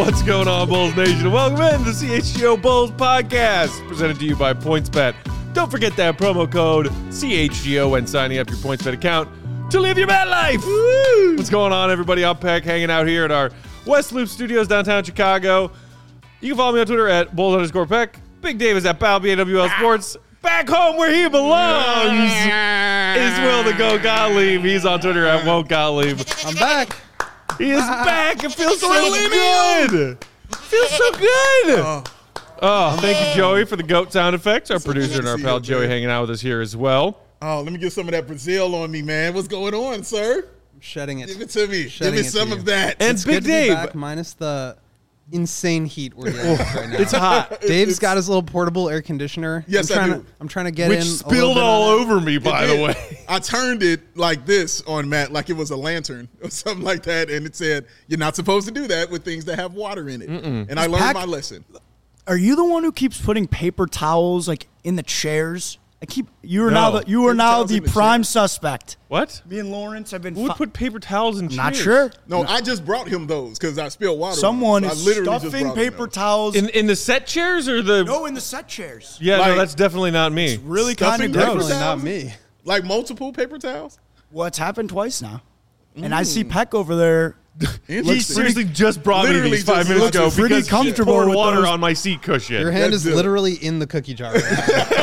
What's going on, Bulls Nation? Welcome in to the CHGO Bulls Podcast, presented to you by PointsBet. Don't forget that promo code CHGO when signing up your PointsBet account to live your bet life. Woo! What's going on, everybody? I'm Peck, hanging out here at our West Loop Studios, downtown Chicago. You can follow me on Twitter at Bulls_Peck. Big Dave is at BalBNWL Sports. Back home where he belongs is Will the Go Gottlieb. He's on Twitter at Won't Gottlieb. I'm back. He is back. It feels so good. Feels so good. Oh, thank you, Joey, for the GOAT sound effects. Our producer and our pal Joey hanging out with us here as well. Oh, let me get some of that Brazil on me, man. What's going on, sir? I'm shedding it. Give it to me. Give me some of that. And It's Big good to be Dave. back, minus the insane heat we're dealing with right now. It's hot. Dave's got his little portable air conditioner. Yes, I do. I'm trying to get Which in. spilled all over me, by the way. I turned it like this on Matt, like it was a lantern or something like that, and it said, you're not supposed to do that with things that have water in it. And I learned my lesson. Are you the one who keeps putting paper towels like in the chairs? You are No. now towels the in the prime suspect. What? Me and Lawrence have been Who would put paper towels in chairs? not sure. No, I just brought him those because I spilled water. Someone on them. is So I literally just stuffing brought him paper those. towels. In the set chairs or the... No, in the set chairs. Yeah, no, Like- that's definitely not me. Really kind Stuffing of paper gross. Definitely towels? not me. Like multiple paper towels? Well, it's happened twice now. And I see Peck over there. He Interesting. seriously just brought me Literally these 5 just minutes looks ago pretty because he comfortable poured with water those. on my seat cushion. Your hand That's is it. literally in the cookie jar right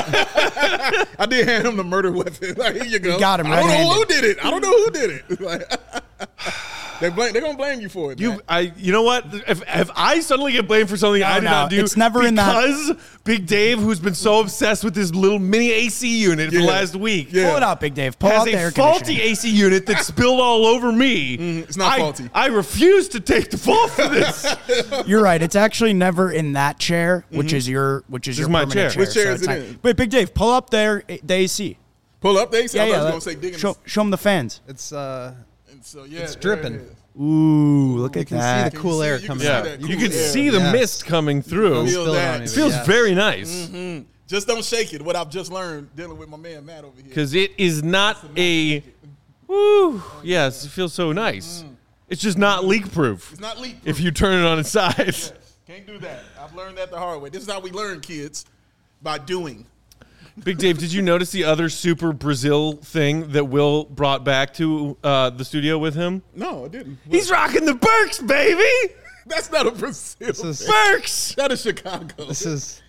now. I did hand him the murder weapon. Like, here you go. You got him I don't know red-handed. who did it. I don't know who did it. Like, they're going to blame you for it, man. You know what? If I suddenly get blamed for something I did no, not do, it's never in that- because Big Dave, who's been so obsessed with this little mini AC unit for the Yeah. last week, Yeah. Pull it out, Big Dave. Pull has out the air a faulty conditioning. AC unit that spilled all over me. it's not faulty. I refuse to take the fault for this. You're right. It's actually never in that chair, which is your is your my permanent chair. Which chair so is it's it not- in? Wait, Big Dave, pull up there the AC. Pull up, they said. I was Yeah. going to say digging. Show them the fans. It's And so, yeah, it's there dripping. it is. Ooh, look You at can that. see the cool see- air you can coming see out. that You cool can air. see the Yes. mist coming through. Don't It Feel spill it that. on me, but feels yes. very nice Just don't shake it. What I've just learned dealing with my man Matt over here. because it is not a. Woo! Yes, it feels so nice. It's just not leak proof. It's not leak. If you turn it on its side. Yes, can't do that. I've learned that the hard way. This is how we learn, kids, by doing. Big Dave, did you notice the other super Brazil thing that Will brought back to the studio with him? No, I didn't. He's rocking the Birks, baby! That's not a Brazil. This is Birks! That is Chicago. this is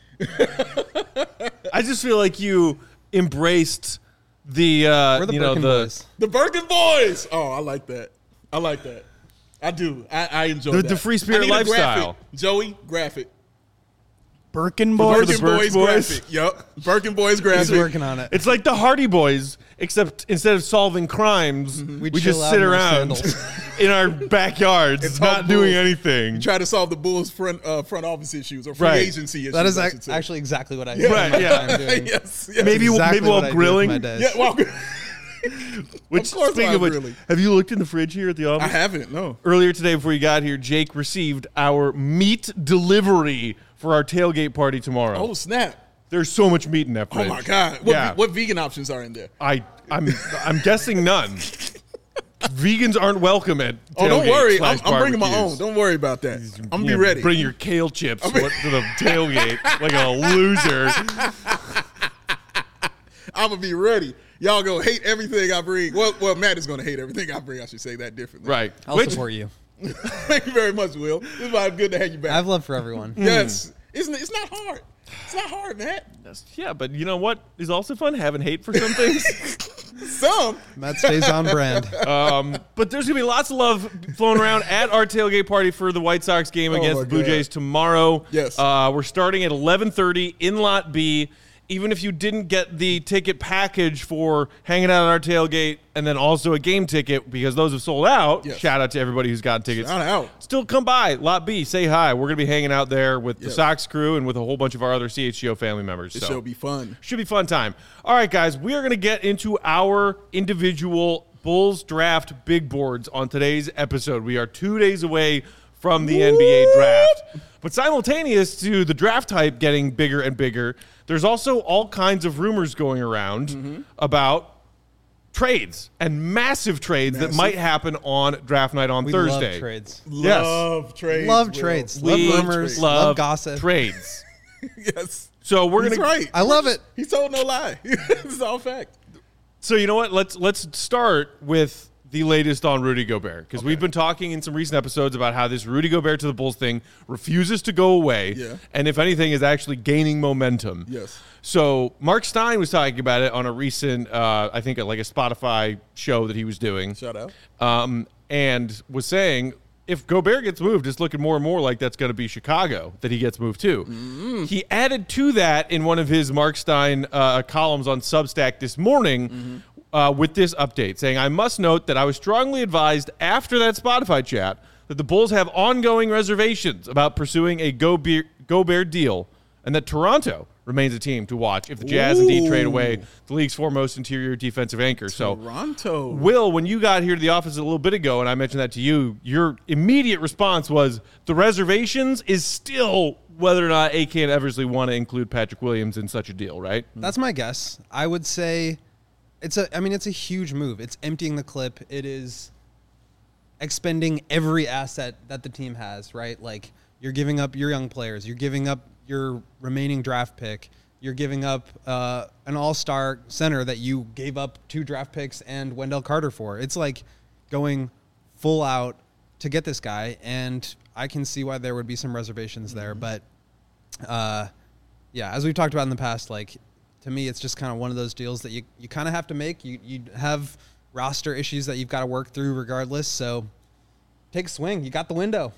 I just feel like you embraced the, we're the Birkin boys. The Birkin Boys. Oh, I like that. I like that. I do. I enjoy The that. free spirit I need a lifestyle. graphic. Joey, graphic. Birkin boys. the Birkin Birks Boys Boys? graphic. Yup. Birkin Boys graphic. He's working on it. It's like the Hardy Boys, except instead of solving crimes, we We just chill out sit in our around sandals. in our backyards, And not talk doing bulls. anything. Try to solve the Bulls front office issues or free Right. agency issues. That is I should say. actually exactly what I Yeah. spend Right, my yeah. time doing. yes. Maybe Exactly while what I do with grilling. my days. Yeah. Well, Which, Of course speaking I'm of which, grilling. have you looked in the fridge here at the office? I haven't. No. Earlier today, before you got here, Jake received our meat delivery for our tailgate party tomorrow. Oh snap! There's so much meat in that Oh fridge. my God! Yeah. What vegan options are in there? I'm guessing none. Vegans aren't welcome at Oh, don't worry. I'm tailgates/barbecues. bringing my own. Don't worry about that. I'm gonna Yeah, be ready. Bring your kale chips to the tailgate like a loser. I'm gonna be ready. Y'all gonna hate everything I bring. Well, Matt is gonna hate everything I bring. I should say that differently. Right. I'll Which, support you. Thank you very much, Will. This is why it's good to have you back. I have love for everyone. Yes. It's not hard. It's not hard, Matt. yeah, but you know what is also fun? Having hate for some things. Some. Matt stays on brand. But there's going to be lots of love flowing around at our tailgate party for the White Sox game against my the Blue God. Jays tomorrow. Yes. We're starting at 11:30 in Lot B. Even if you didn't get the ticket package for hanging out at our tailgate and then also a game ticket because those have sold out, Yes. shout out to everybody who's gotten tickets. Shout out. Still come by, Lot B, say hi. We're going to be hanging out there with the Yes. Sox crew and with a whole bunch of our other CHGO family members. It should be fun. Should be a fun time. All right, guys, we are going to get into our individual Bulls draft big boards on today's episode. We are 2 days away from the NBA draft. But simultaneous to the draft hype getting bigger and bigger, there's also all kinds of rumors going around about trades and massive trades that might happen on draft night on We Thursday. love trades. Love trades. Love Will. trades. We Love rumors. love Love gossip. trades. Yes. So we're He's gonna. right. I love it. He told no lie. It's all fact. So you know what? Let's start with the latest on Rudy Gobert, because we've been talking in some recent episodes about how this Rudy Gobert to the Bulls thing refuses to go away, and if anything is actually gaining momentum. Yes. So Mark Stein was talking about it on a recent, I think, like a Spotify show that he was doing. Shout out. And was saying if Gobert gets moved, it's looking more and more like that's going to be Chicago that he gets moved to. He added to that in one of his Mark Stein columns on Substack this morning with this update, saying, I must note that I was strongly advised after that Spotify chat that the Bulls have ongoing reservations about pursuing a Gobert deal, and that Toronto remains a team to watch if the Jazz indeed trade away the league's foremost interior defensive anchor. Toronto. So, Will, when you got here to the office a little bit ago, and I mentioned that to you, your immediate response was the reservations is still whether or not AK and Eversley want to include Patrick Williams in such a deal, right? That's my guess. I would say it's a huge move. It's emptying the clip. It is expending every asset that the team has, right? Like, you're giving up your young players. You're giving up your remaining draft pick. You're giving up an all-star center that you gave up 2 draft picks and Wendell Carter for. It's like going full out to get this guy, and I can see why there would be some reservations there. But, as we've talked about in the past, like, to me, it's just kind of one of those deals that you kind of have to make. You have roster issues that you've got to work through regardless, so take a swing. You got the window.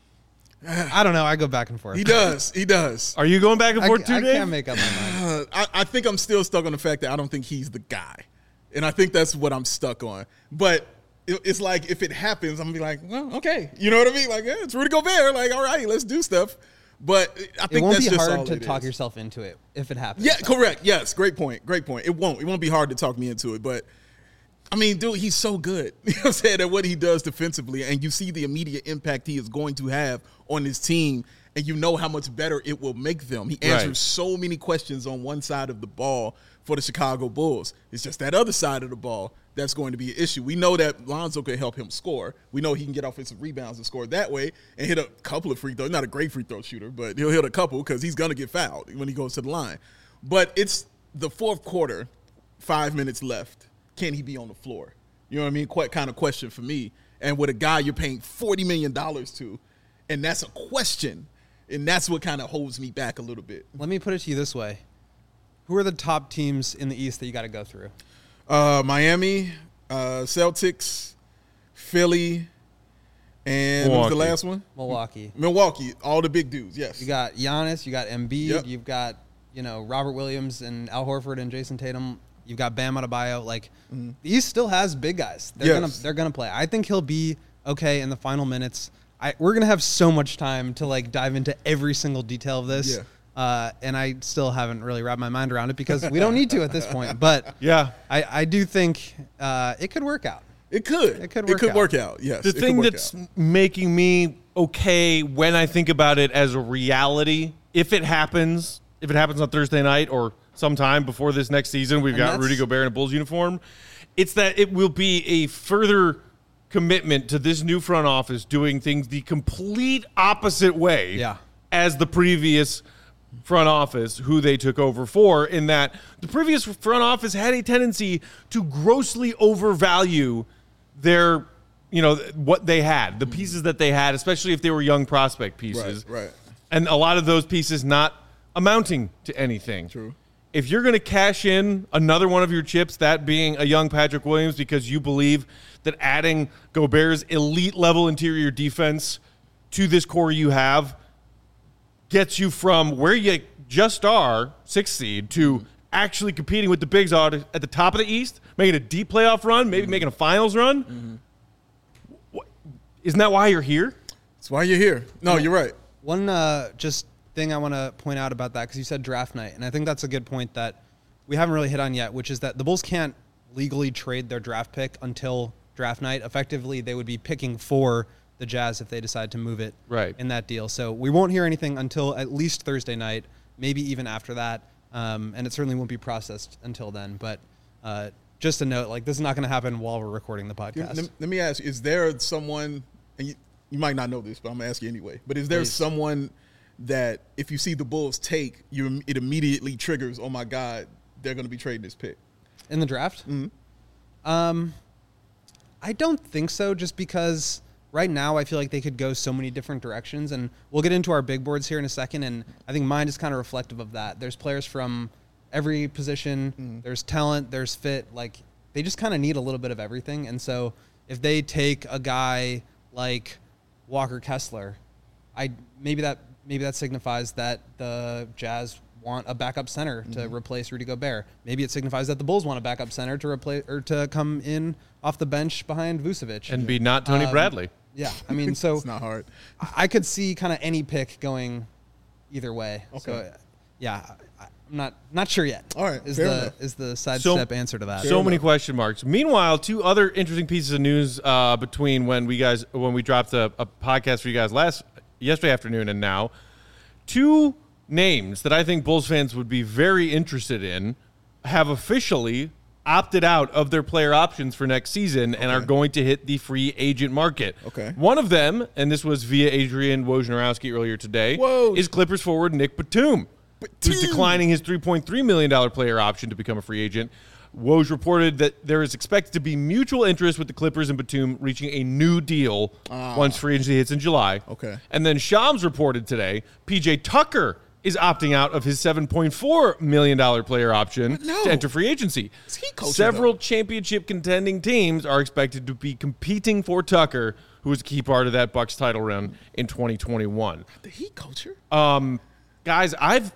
I don't know. I go back and forth. He does. Are you going back and forth too, I Dave? can't make up my mind. I think I'm still stuck on the fact that I don't think he's the guy. And I think that's what I'm stuck on. But it's like, if it happens, I'm going to be like, well, okay. You know what I mean? Like, it's Rudy Gobert. Like, all right, let's do stuff. But I think it won't that's be just all hard to it talk is. yourself into it if it happens. Yeah, correct. Yes, great point. It won't be hard to talk me into it. But, I mean, dude, he's so good. You know what I'm saying? At what he does defensively. And you see the immediate impact he is going to have on his team. And you know how much better it will make them. He answers so many questions on one side of the ball for the Chicago Bulls. It's just that other side of the ball that's going to be an issue. We know that Lonzo can help him score. We know he can get offensive rebounds and score that way and hit a couple of free throws. Not a great free throw shooter, but he'll hit a couple because he's going to get fouled when he goes to the line. But it's the fourth quarter, 5 minutes left. Can he be on the floor? You know what I mean? Quite kind of question for me. And with a guy you're paying $40 million to, and that's a question, and that's what kind of holds me back a little bit. Let me put it to you this way. Who are the top teams in the East that you got to go through? Miami, Celtics, Philly, and what was the last one? Milwaukee, all the big dudes, yes. You got Giannis, you got Embiid, you've got, Robert Williams and Al Horford and Jason Tatum. You've got Bam Adebayo. Like, the East still has big guys. They're gonna play. I think he'll be okay in the final minutes. We're gonna have so much time to dive into every single detail of this. Yeah. And I still haven't really wrapped my mind around it because we don't need to at this point. But Yeah. I do think it could work out. It could. It could work out. Yes. The thing that's making me okay when I think about it as a reality, if it happens on Thursday night or sometime before this next season, we've got Rudy Gobert in a Bulls uniform, it's that it will be a further commitment to this new front office doing things the complete opposite way as the previous front office who they took over for, in that the previous front office had a tendency to grossly overvalue their, what they had, the pieces that they had, especially if they were young prospect pieces. Right. And a lot of those pieces not amounting to anything. True. If you're going to cash in another one of your chips, that being a young Patrick Williams, because you believe that adding Gobert's elite level interior defense to this core you have gets you from where you just are, 6th seed, to actually competing with the bigs at the top of the East, making a deep playoff run, maybe making a finals run. Isn't that why you're here? That's why you're here. No, you're right. One just thing I want to point out about that, because you said draft night, and I think that's a good point that we haven't really hit on yet, which is that the Bulls can't legally trade their draft pick until draft night. Effectively, they would be picking for the Jazz if they decide to move it in that deal. So we won't hear anything until at least Thursday night, maybe even after that, and it certainly won't be processed until then. But just a note, like this is not going to happen while we're recording the podcast. Let me ask you, is there someone, and you might not know this, but I'm going to ask you anyway, but is there someone that if you see the Bulls take, it immediately triggers, oh my God, they're going to be trading this pick? In the draft? Mm-hmm. I don't think so, just because right now I feel like they could go so many different directions, and we'll get into our big boards here in a second, and I think mine is kind of reflective of that. There's players from every position, there's talent, there's fit, like they just kind of need a little bit of everything. And so if they take a guy like Walker Kessler, maybe that signifies that the Jazz want a backup center to replace Rudy Gobert. Maybe it signifies that the Bulls want a backup center to replace or to come in off the bench behind Vucevic and be not Tony Bradley. Yeah, I mean, so it's not hard. I could see kind of any pick going either way. Okay. So yeah, I'm not sure yet. All right, is the sidestep answer to that? So many question marks. Meanwhile, two other interesting pieces of news between when we dropped a podcast for you guys yesterday afternoon and now. Two names that I think Bulls fans would be very interested in have officially opted out of their player options for next season and are going to hit the free agent market. Okay. One of them, and this was via Adrian Wojnarowski earlier today, is Clippers forward Nick Batum, who's declining his $3.3 million player option to become a free agent. Woj reported that there is expected to be mutual interest with the Clippers and Batum reaching a new deal once free agency hits in July. Okay. And then Shams reported today PJ Tucker is opting out of his $7.4 million player option to enter free agency. Several championship contending teams are expected to be competing for Tucker, who was a key part of that Bucks title run in 2021. The Heat culture? Guys, I've,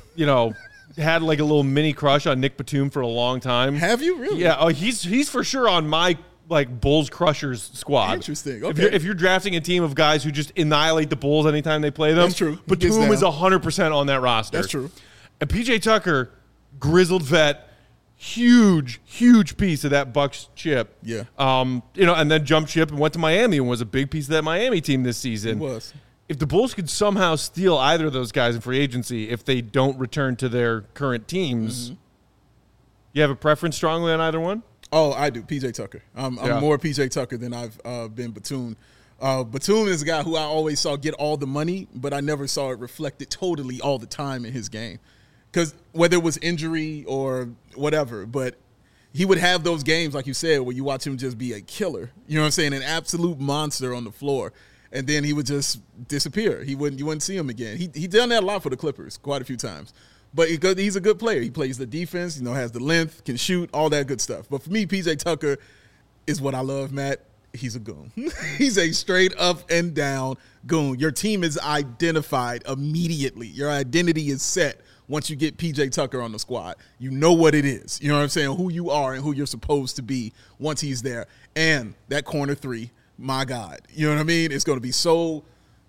had like a little mini crush on Nick Batum for a long time. Have you really? Yeah. Oh, he's for sure on my Bulls Crushers squad. Interesting. Okay. If you're drafting a team of guys who just annihilate the Bulls anytime they play them, that's true. Batum is 100% on that roster. That's true. And PJ Tucker, grizzled vet, huge piece of that Bucks chip. Yeah. And then jumped ship and went to Miami and was a big piece of that Miami team this season. He was. If the Bulls could somehow steal either of those guys in free agency, if they don't return to their current teams, you have a preference strongly on either one? Oh, I do. PJ Tucker. I'm more PJ Tucker than I've been Batum. Batum is a guy who I always saw get all the money, but I never saw it reflected totally all the time in his game. Because whether it was injury or whatever, but he would have those games, like you said, where you watch him just be a killer. You know what I'm saying? An absolute monster on the floor. And then he would just disappear. You wouldn't see him again. He done that a lot for the Clippers, quite a few times. But he's a good player. He plays the defense, has the length, can shoot, all that good stuff. But for me, PJ Tucker is what I love, Matt. He's a goon. He's a straight up and down goon. Your team is identified immediately. Your identity is set once you get PJ Tucker on the squad. You know what it is. You know what I'm saying? Who you are and who you're supposed to be once he's there. And that corner three, my God. You know what I mean? It's going to be so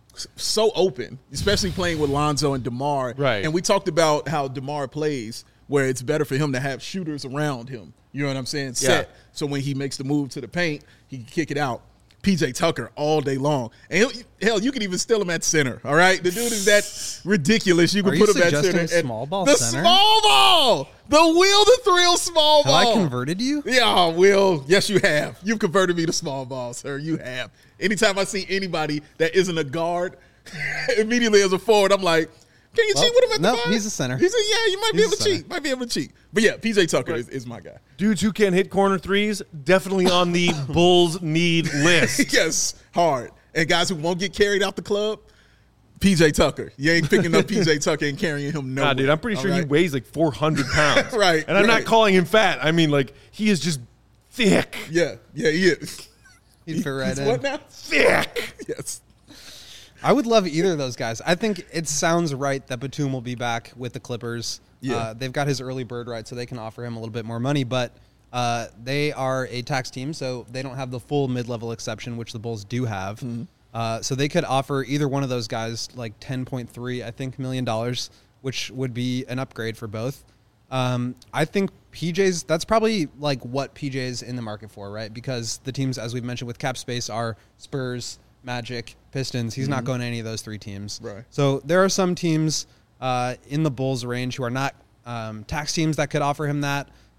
open, especially playing with Lonzo and DeMar. Right. And we talked about how DeMar plays, where it's better for him to have shooters around him. You know what I'm saying? Set. Yeah. So when he makes the move to the paint, he can kick it out. PJ Tucker all day long. And you can even steal him at center, all right? The dude is that ridiculous. You can put him at center. Small ball the center? Small ball! The Will the Thrill small ball. Have I converted you? Yeah, Will. Yes, you have. You've converted me to small ball, sir. You have. Anytime I see anybody that isn't a guard, immediately as a forward, I'm like, can you cheat with him at the five? He's a center. He said, yeah, you might be able to cheat. But yeah, PJ Tucker is my guy. Dudes who can hit corner threes, definitely on the Bulls need list. Yes, hard. And guys who won't get carried out the club, PJ Tucker. You ain't picking up PJ Tucker and carrying him nowhere. Nah, dude, I'm pretty sure he weighs like 400 pounds. Right. And I'm not calling him fat. I mean, he is just thick. Yeah, he is. He'd fit right in. What now? Thick. Yes. I would love either of those guys. I think it sounds right that Batum will be back with the Clippers. Yeah. They've got his early bird right, so they can offer him a little bit more money. But they are a tax team, so they don't have the full mid-level exception, which the Bulls do have. Mm-hmm. So they could offer either one of those guys like $10.3 million, which would be an upgrade for both. I think PJ's, that's probably like what PJ's in the market for, right? Because the teams, as we've mentioned with cap space, are Spurs, Magic, Pistons. He's not going to any of those three teams. Right. So there are some teams in the Bulls range who are not tax teams that could offer him that.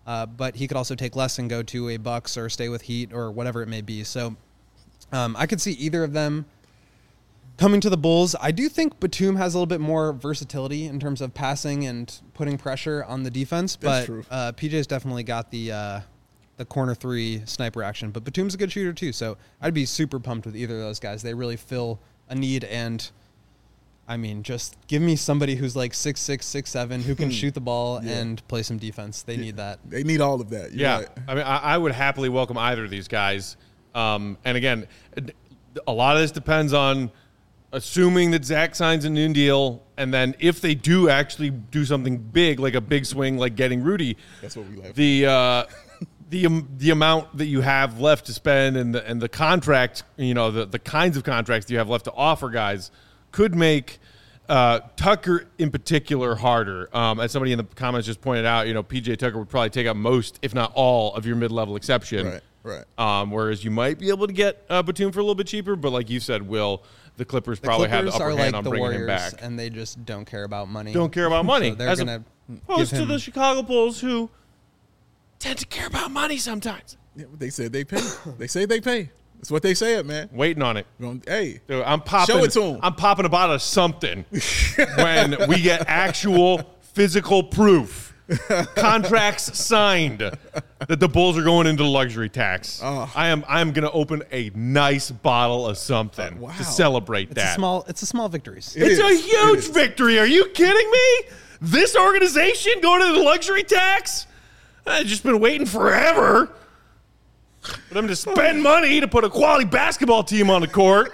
but he could also take less and go to a Bucks or stay with Heat or whatever it may be. So I could see either of them coming to the Bulls. I do think Batum has a little bit more versatility in terms of passing and putting pressure on the defense, That's but true. PJ's definitely got the corner 3 sniper action. But Batum's a good shooter too, so I'd be super pumped with either of those guys. They really fill a need, and I mean, just give me somebody who's like 6'6", 6'7", who can shoot the ball and play some defense. They need that. They need all of that. You're Yeah, right. I mean, I would happily welcome either of these guys. And again, a lot of this depends on assuming that Zach signs a new deal, and then if they do actually do something big, like a big swing, like getting Rudy, That's what we laugh. the amount that you have left to spend and the contract, the kinds of contracts you have left to offer guys could make Tucker in particular harder. As somebody in the comments just pointed out, PJ Tucker would probably take up most, if not all, of your mid-level exception. Right. Whereas you might be able to get Batum for a little bit cheaper, but like you said, Will, the Clippers probably have the upper are hand like on the bringing Warriors, him back. and they just don't care about money. Don't care about money. So they're As going to opposed give to him the Chicago Bulls, who tend to care about money sometimes. Yeah, they said they pay. They say they pay. That's what they said, man. Waiting on it. Hey, Dude, I'm popping. Show it to 'em. I'm popping a bottle of something when we get actual physical proof, contracts signed that the Bulls are going into the luxury tax. I am going to open a nice bottle of something Wow. to celebrate it's that. a small victories. It's a is. huge victory. Are you kidding me? This organization going into the luxury tax? I've just been waiting forever for them to spend money to put a quality basketball team on the court.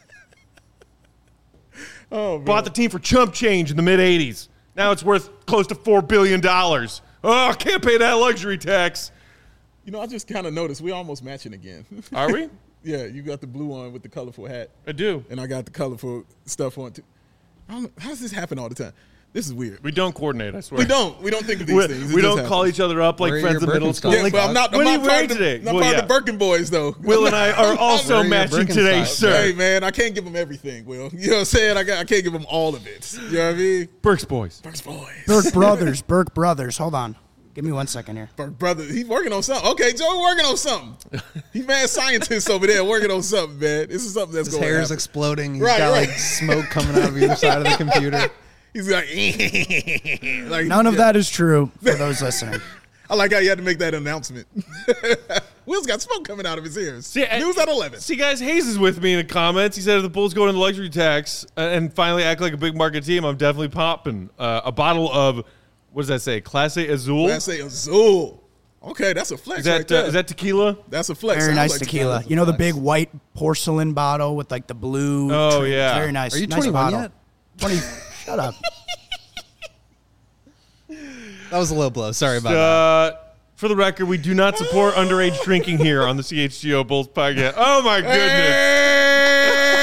oh man. Bought the team for chump change in the mid-'80s. Now it's worth close to $4 billion. Oh, I can't pay that luxury tax. I just kind of noticed we're almost matching again. Are we? Yeah, you got the blue on with the colorful hat, I do. and I got the colorful stuff on too. How does this happen all the time? This is weird. We don't coordinate, I swear. We don't think of these things. It We just don't call happens. each other up like Where are friends your in middle Birkenstocks? school. Yeah, Like, but I'm not what are you part wearing of today? the, I'm Well, part yeah. of the Birkin boys, though. Will and I are also Where are your matching today's Birkenstocks? shirt. Hey, man, I can't give them everything, Will. You know what I'm saying? I can't give them all of it. You know what I mean? Burks Boys. Burks boys. Burke Brothers. Hold on. Give me 1 second here. Burke brother, he's working on something. Okay, Joe, working on something. He's mad scientist over there working on something, man. This is something that's His going to hair happen. is exploding. He's Right, got right. like smoke coming out of either side of the computer. He's like, like None of yeah. that is true for those listening. I like how you had to make that announcement. Will's got smoke coming out of his ears. News at 11. See, guys, Hayes is with me in the comments. He said if the Bulls go into the luxury tax and finally act like a big market team, I'm definitely popping a bottle of, what does that say, Clase Azul? I say Azul. Okay, that's a flex Is that, right there. is that tequila? That's a flex. Very Sounds nice like tequila. tequila's a You know the flex. big white porcelain bottle with like the blue. Oh, trim? yeah. It's very nice. Are you nice 21 bottle. yet? 20. Shut up. That was a low blow. Sorry about that. For the record, we do not support underage drinking here on the CHGO Bulls podcast. Oh, my goodness.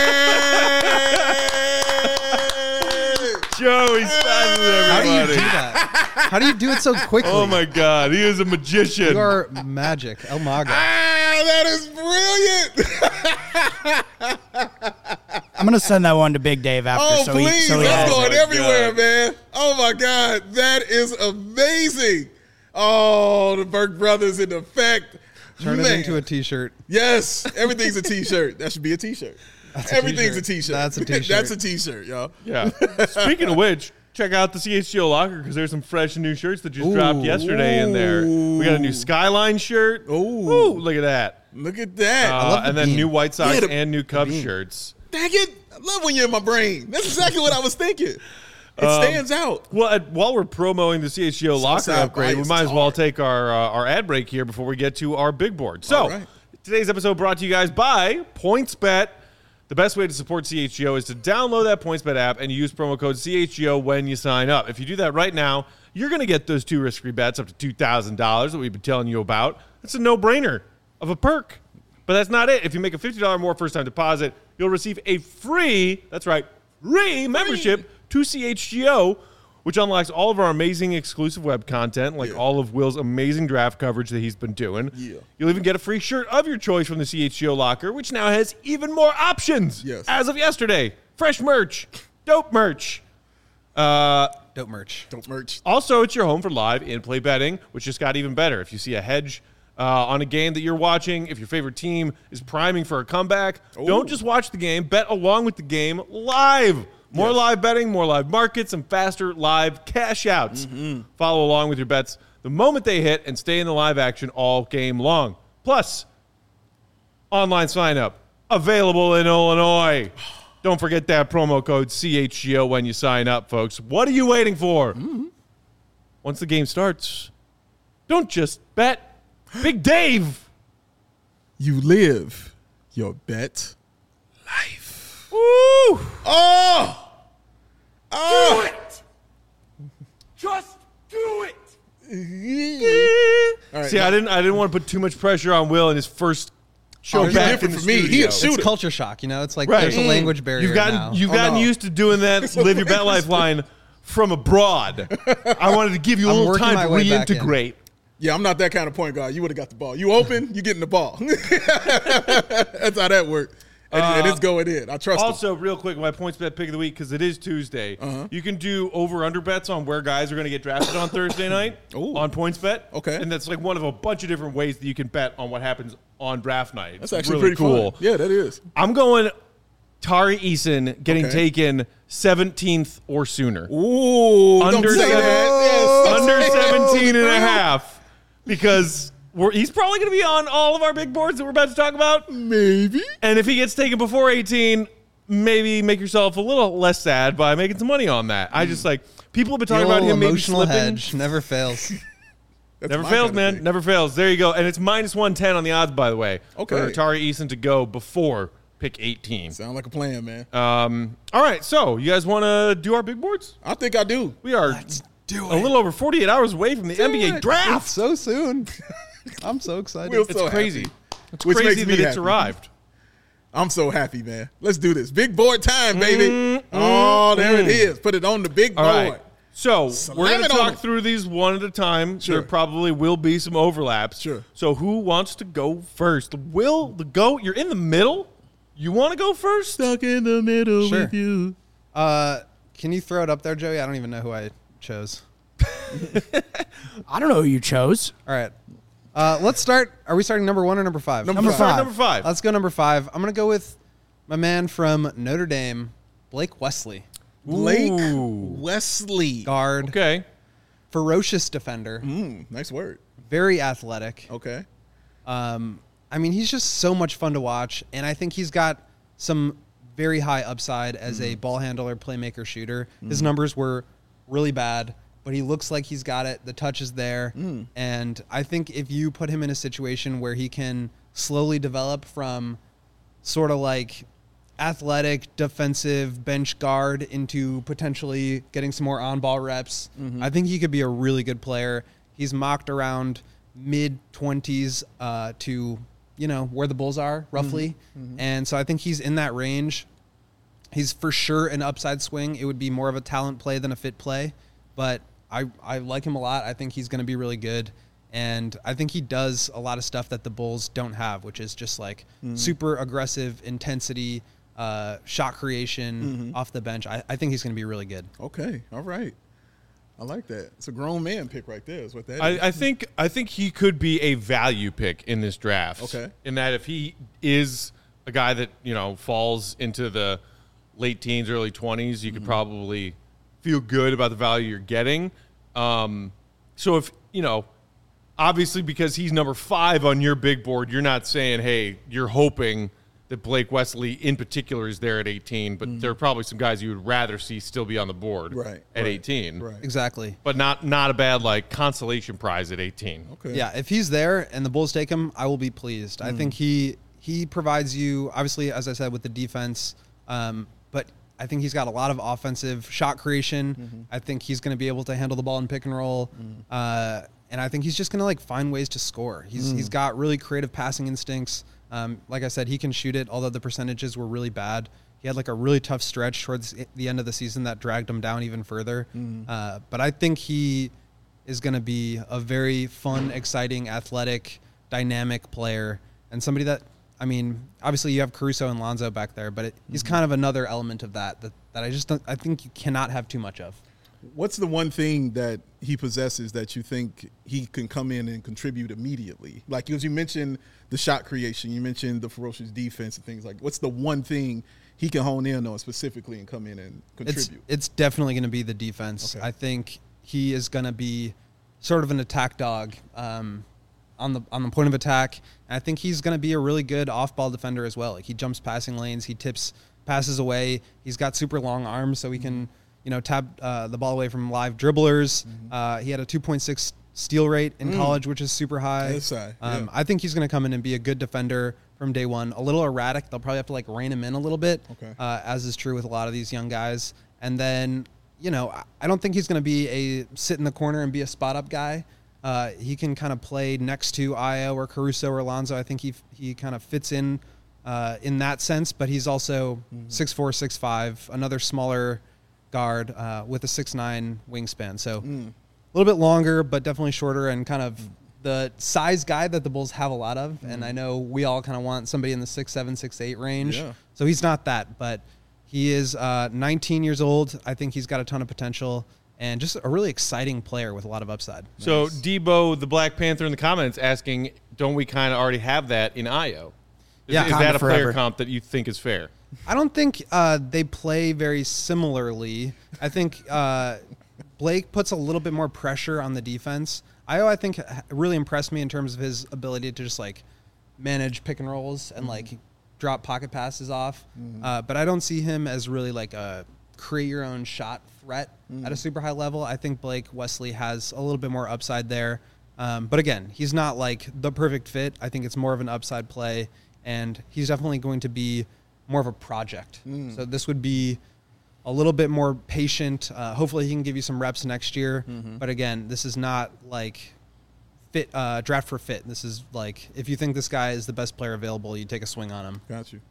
Joey Simon, How do you do everybody. that? How do you do it so quickly? Oh, my God. He is a magician. You are magic. El Maga. That is brilliant. I'm gonna send that one to Big Dave after. Oh, so please. he That's has going it. everywhere, God. man. Oh, my God. That is amazing. Oh, the Burke brothers in effect. Turn it Man. into a T-shirt. Yes. Everything's a T-shirt. That should be a T-shirt. Everything's a T-shirt. That's a T-shirt. That's a T-shirt, y'all. Yeah. Speaking of which, check out the CHGO locker because there's some fresh new shirts that just dropped yesterday in there. We got a new Skyline shirt. Ooh. Look at that. Look at that. love the And then beam. new White Sox Yeah, and new Cubs beam. shirts. Dang it. I love when you're in my brain. That's exactly what I was thinking. It stands out. Well, while we're promoting the CHGO locker Southside upgrade, we bias might as well hard. take our ad break here before we get to our big board. So, All right. today's episode brought to you guys by PointsBet. The best way to support CHGO is to download that PointsBet app and use promo code CHGO when you sign up. If you do that right now, you're going to get those 2 risk-free bets up to $2,000 that we've been telling you about. It's a no-brainer of a perk. But that's not it. If you make a $50 or more first-time deposit, you'll receive a free, that's right, free membership to CHGO, which unlocks all of our amazing exclusive web content, like all of Will's amazing draft coverage that he's been doing. Yeah. You'll even get a free shirt of your choice from the CHGO locker, which now has even more options. Yes. As of yesterday, fresh merch, dope merch. Dope merch. Don't merch. Also, it's your home for live in-play betting, which just got even better. If you see a hedge on a game that you're watching, if your favorite team is priming for a comeback, don't just watch the game. Bet along with the game live. More live betting, more live markets, and faster live cash outs. Follow along with your bets the moment they hit and stay in the live action all game long. Plus, online sign-up available in Illinois. Don't forget that promo code CHGO when you sign up, folks. What are you waiting for? Once the game starts, don't just bet. Big Dave. You live your bet life. Woo! Oh! Do it! Just do it! All right, See, I didn't want to put too much pressure on Will in his first show he's back different in the for me. He studio. a shooter. It's culture shock, you know? It's like Right. there's a language barrier now. You've gotten used to doing that live your bet life line from abroad. I wanted to give you a I'm little working time my to way back in. reintegrate. Yeah, I'm not that kind of point guard. You would have got the ball. You open, you getting the ball. That's how that worked. And it's going in. I trust him. Also, real quick, my points bet pick of the week, because it is Tuesday. You can do over-under bets on where guys are going to get drafted on Thursday night on points bet. Okay. And that's like one of a bunch of different ways that you can bet on what happens on draft night. That's It's actually really pretty cool. fun. Yeah, that is. I'm going Tari Eason getting Okay. taken 17th or sooner. Ooh, Under don't say seven- that. Yes. Under 17 and a half, because he's probably going to be on all of our big boards that we're about to talk about. Maybe. And if he gets taken before 18, maybe make yourself a little less sad by making some money on that. I just people have been The talking about old him maybe emotional slipping. hedge never fails. That's Never my fails, kind of man. thing. Never fails. There you go. And it's minus 110 on the odds, by the way. Okay. For Tari Eason to go before pick 18. Sound like a plan, man. All right. So you guys want to do our big boards? I think I do. We are a little over 48 hours away from the NBA It's draft. so soon. I'm so excited. We'll It's so crazy. happy. It's Which crazy makes me that it's happy. arrived. I'm so happy, man. Let's do this. Big board time, baby. There it is. Put it on the big All board. right. So we're going it to on talk them. through these one at a time. Sure. There probably will be some overlaps. Sure. So who wants to go first? Will, the GOAT, you're in the middle? You want to go first? Stuck in the middle Sure. with you. Can you throw it up there, Joey? I don't even know who I chose. I don't know who you chose. All right. Let's start. Are we starting number 1 or number 5? Number Start number 5. Let's go number 5. I'm going to go with my man from Notre Dame, Blake Wesley. Blake Ooh. Wesley. Guard, Okay. ferocious defender, Nice word. very athletic. Okay. I mean, he's just so much fun to watch, and I think he's got some very high upside as a ball handler, playmaker, shooter. His numbers were really bad, but he looks like he's got it. The touch is there, and I think if you put him in a situation where he can slowly develop from sort of like athletic, defensive bench guard into potentially getting some more on-ball reps, I think he could be a really good player. He's mocked around mid-20s to, where the Bulls are, roughly. And so I think he's in that range. He's for sure an upside swing. It would be more of a talent play than a fit play. But I like him a lot. I think he's going to be really good. And I think he does a lot of stuff that the Bulls don't have, which is just like super aggressive intensity, shot creation off the bench. I think he's going to be really good. Okay. All right. I like that. It's a grown man pick right there. Is what that is. I think he could be a value pick in this draft. Okay. In that if he is a guy that, falls into the late teens, early 20s, you could probably feel good about the value you're getting. So if, obviously because he's number 5 on your big board, you're not saying, hey, you're hoping that Blake Wesley in particular is there at 18, but there are probably some guys you would rather see still be on the board Right, at right, 18. Right. Exactly. But not a bad consolation prize at 18. Okay. Yeah, if he's there and the Bulls take him, I will be pleased. I think he provides you, obviously, as I said, with the defense, but I think he's got a lot of offensive shot creation. I think he's going to be able to handle the ball in pick and roll. And I think he's just going to find ways to score. He's got really creative passing instincts. Like I said, he can shoot it, although the percentages were really bad. He had a really tough stretch towards the end of the season that dragged him down even further. But I think he is going to be a very fun, exciting, athletic, dynamic player, and somebody that, obviously you have Caruso and Lonzo back there, but he's kind of another element of that I just don't, I think you cannot have too much of. What's the one thing that he possesses that you think he can come in and contribute immediately? Like, as you mentioned the shot creation, you mentioned the ferocious defense and things like. What's the one thing he can hone in on specifically and come in and contribute? It's definitely going to be the defense. Okay. I think he is going to be sort of an attack dog on the point of attack. And I think he's going to be a really good off-ball defender as well. Like, he jumps passing lanes, he tips passes away. He's got super long arms, so he can tap the ball away from live dribblers. He had a 2.6 steal rate in college, which is super high. That's high, yeah. I think he's going to come in and be a good defender from day one. A little erratic. They'll probably have to rein him in a little bit, as is true with a lot of these young guys. And then, I don't think he's going to be a sit in the corner and be a spot up guy. He can kind of play next to Ayo or Caruso or Alonzo. I think he kind of fits in that sense, but he's also 6'4", 6'5", another smaller guard with a 6'9" wingspan. So a little bit longer, but definitely shorter and kind of the size guy that the Bulls have a lot of. And I know we all kind of want somebody in the 6'7", 6'8" range. Yeah. So he's not that, but he is 19 years old. I think he's got a ton of potential and just a really exciting player with a lot of upside. So nice. Debo, the Black Panther in the comments asking, don't we kind of already have that in Ayo? Is that a player comp that you think is fair? I don't think they play very similarly. I think Blake puts a little bit more pressure on the defense. Ayo, I think, really impressed me in terms of his ability to just manage pick and rolls and drop pocket passes off. But I don't see him as really a create your own shot threat at a super high level. I think Blake Wesley has a little bit more upside there. But again, he's not the perfect fit. I think it's more of an upside play, and he's definitely going to be more of a project. So this would be a little bit more patient. Hopefully he can give you some reps next year. But again, this is not fit draft for fit. This is if you think this guy is the best player available, you take a swing on him. Got you.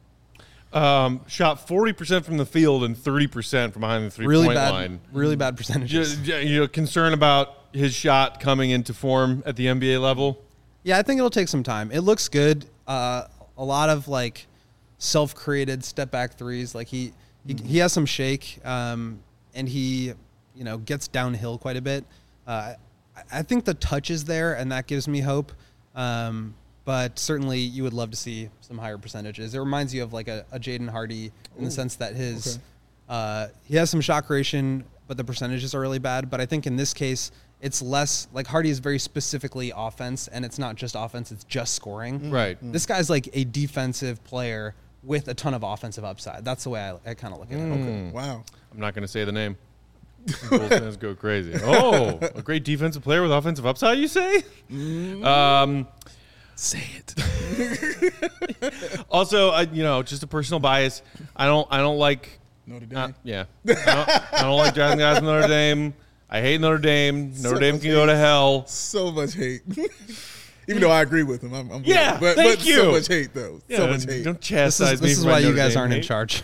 Shot 40% from the field and 30% from behind the three-point line. Really bad percentages. Concern about his shot coming into form at the NBA level? Yeah, I think it'll take some time. It looks good. A lot of self-created step-back threes. He has some shake, and he gets downhill quite a bit. I think the touch is there, and that gives me hope. But certainly you would love to see some higher percentages. It reminds you of a Jaden Hardy in the sense that his he has some shot creation, but the percentages are really bad. But I think in this case, it's less Hardy is very specifically offense, and it's not just offense, it's just scoring. Right. This guy's a defensive player with a ton of offensive upside. That's the way I kind of look at it. Okay. Wow. I'm not going to say the name. Bulls fans go crazy. Oh, a great defensive player with offensive upside, you say? Say it. Also, just a personal bias. I don't like Notre Dame. I don't like drafting guys from Notre Dame. I hate Notre Dame. Notre Dame can go to hell. So much hate. Even though I agree with him, I'm yeah. But thank you. So much hate though. Yeah, so much hate. Don't chastise me. This is why you guys aren't in charge.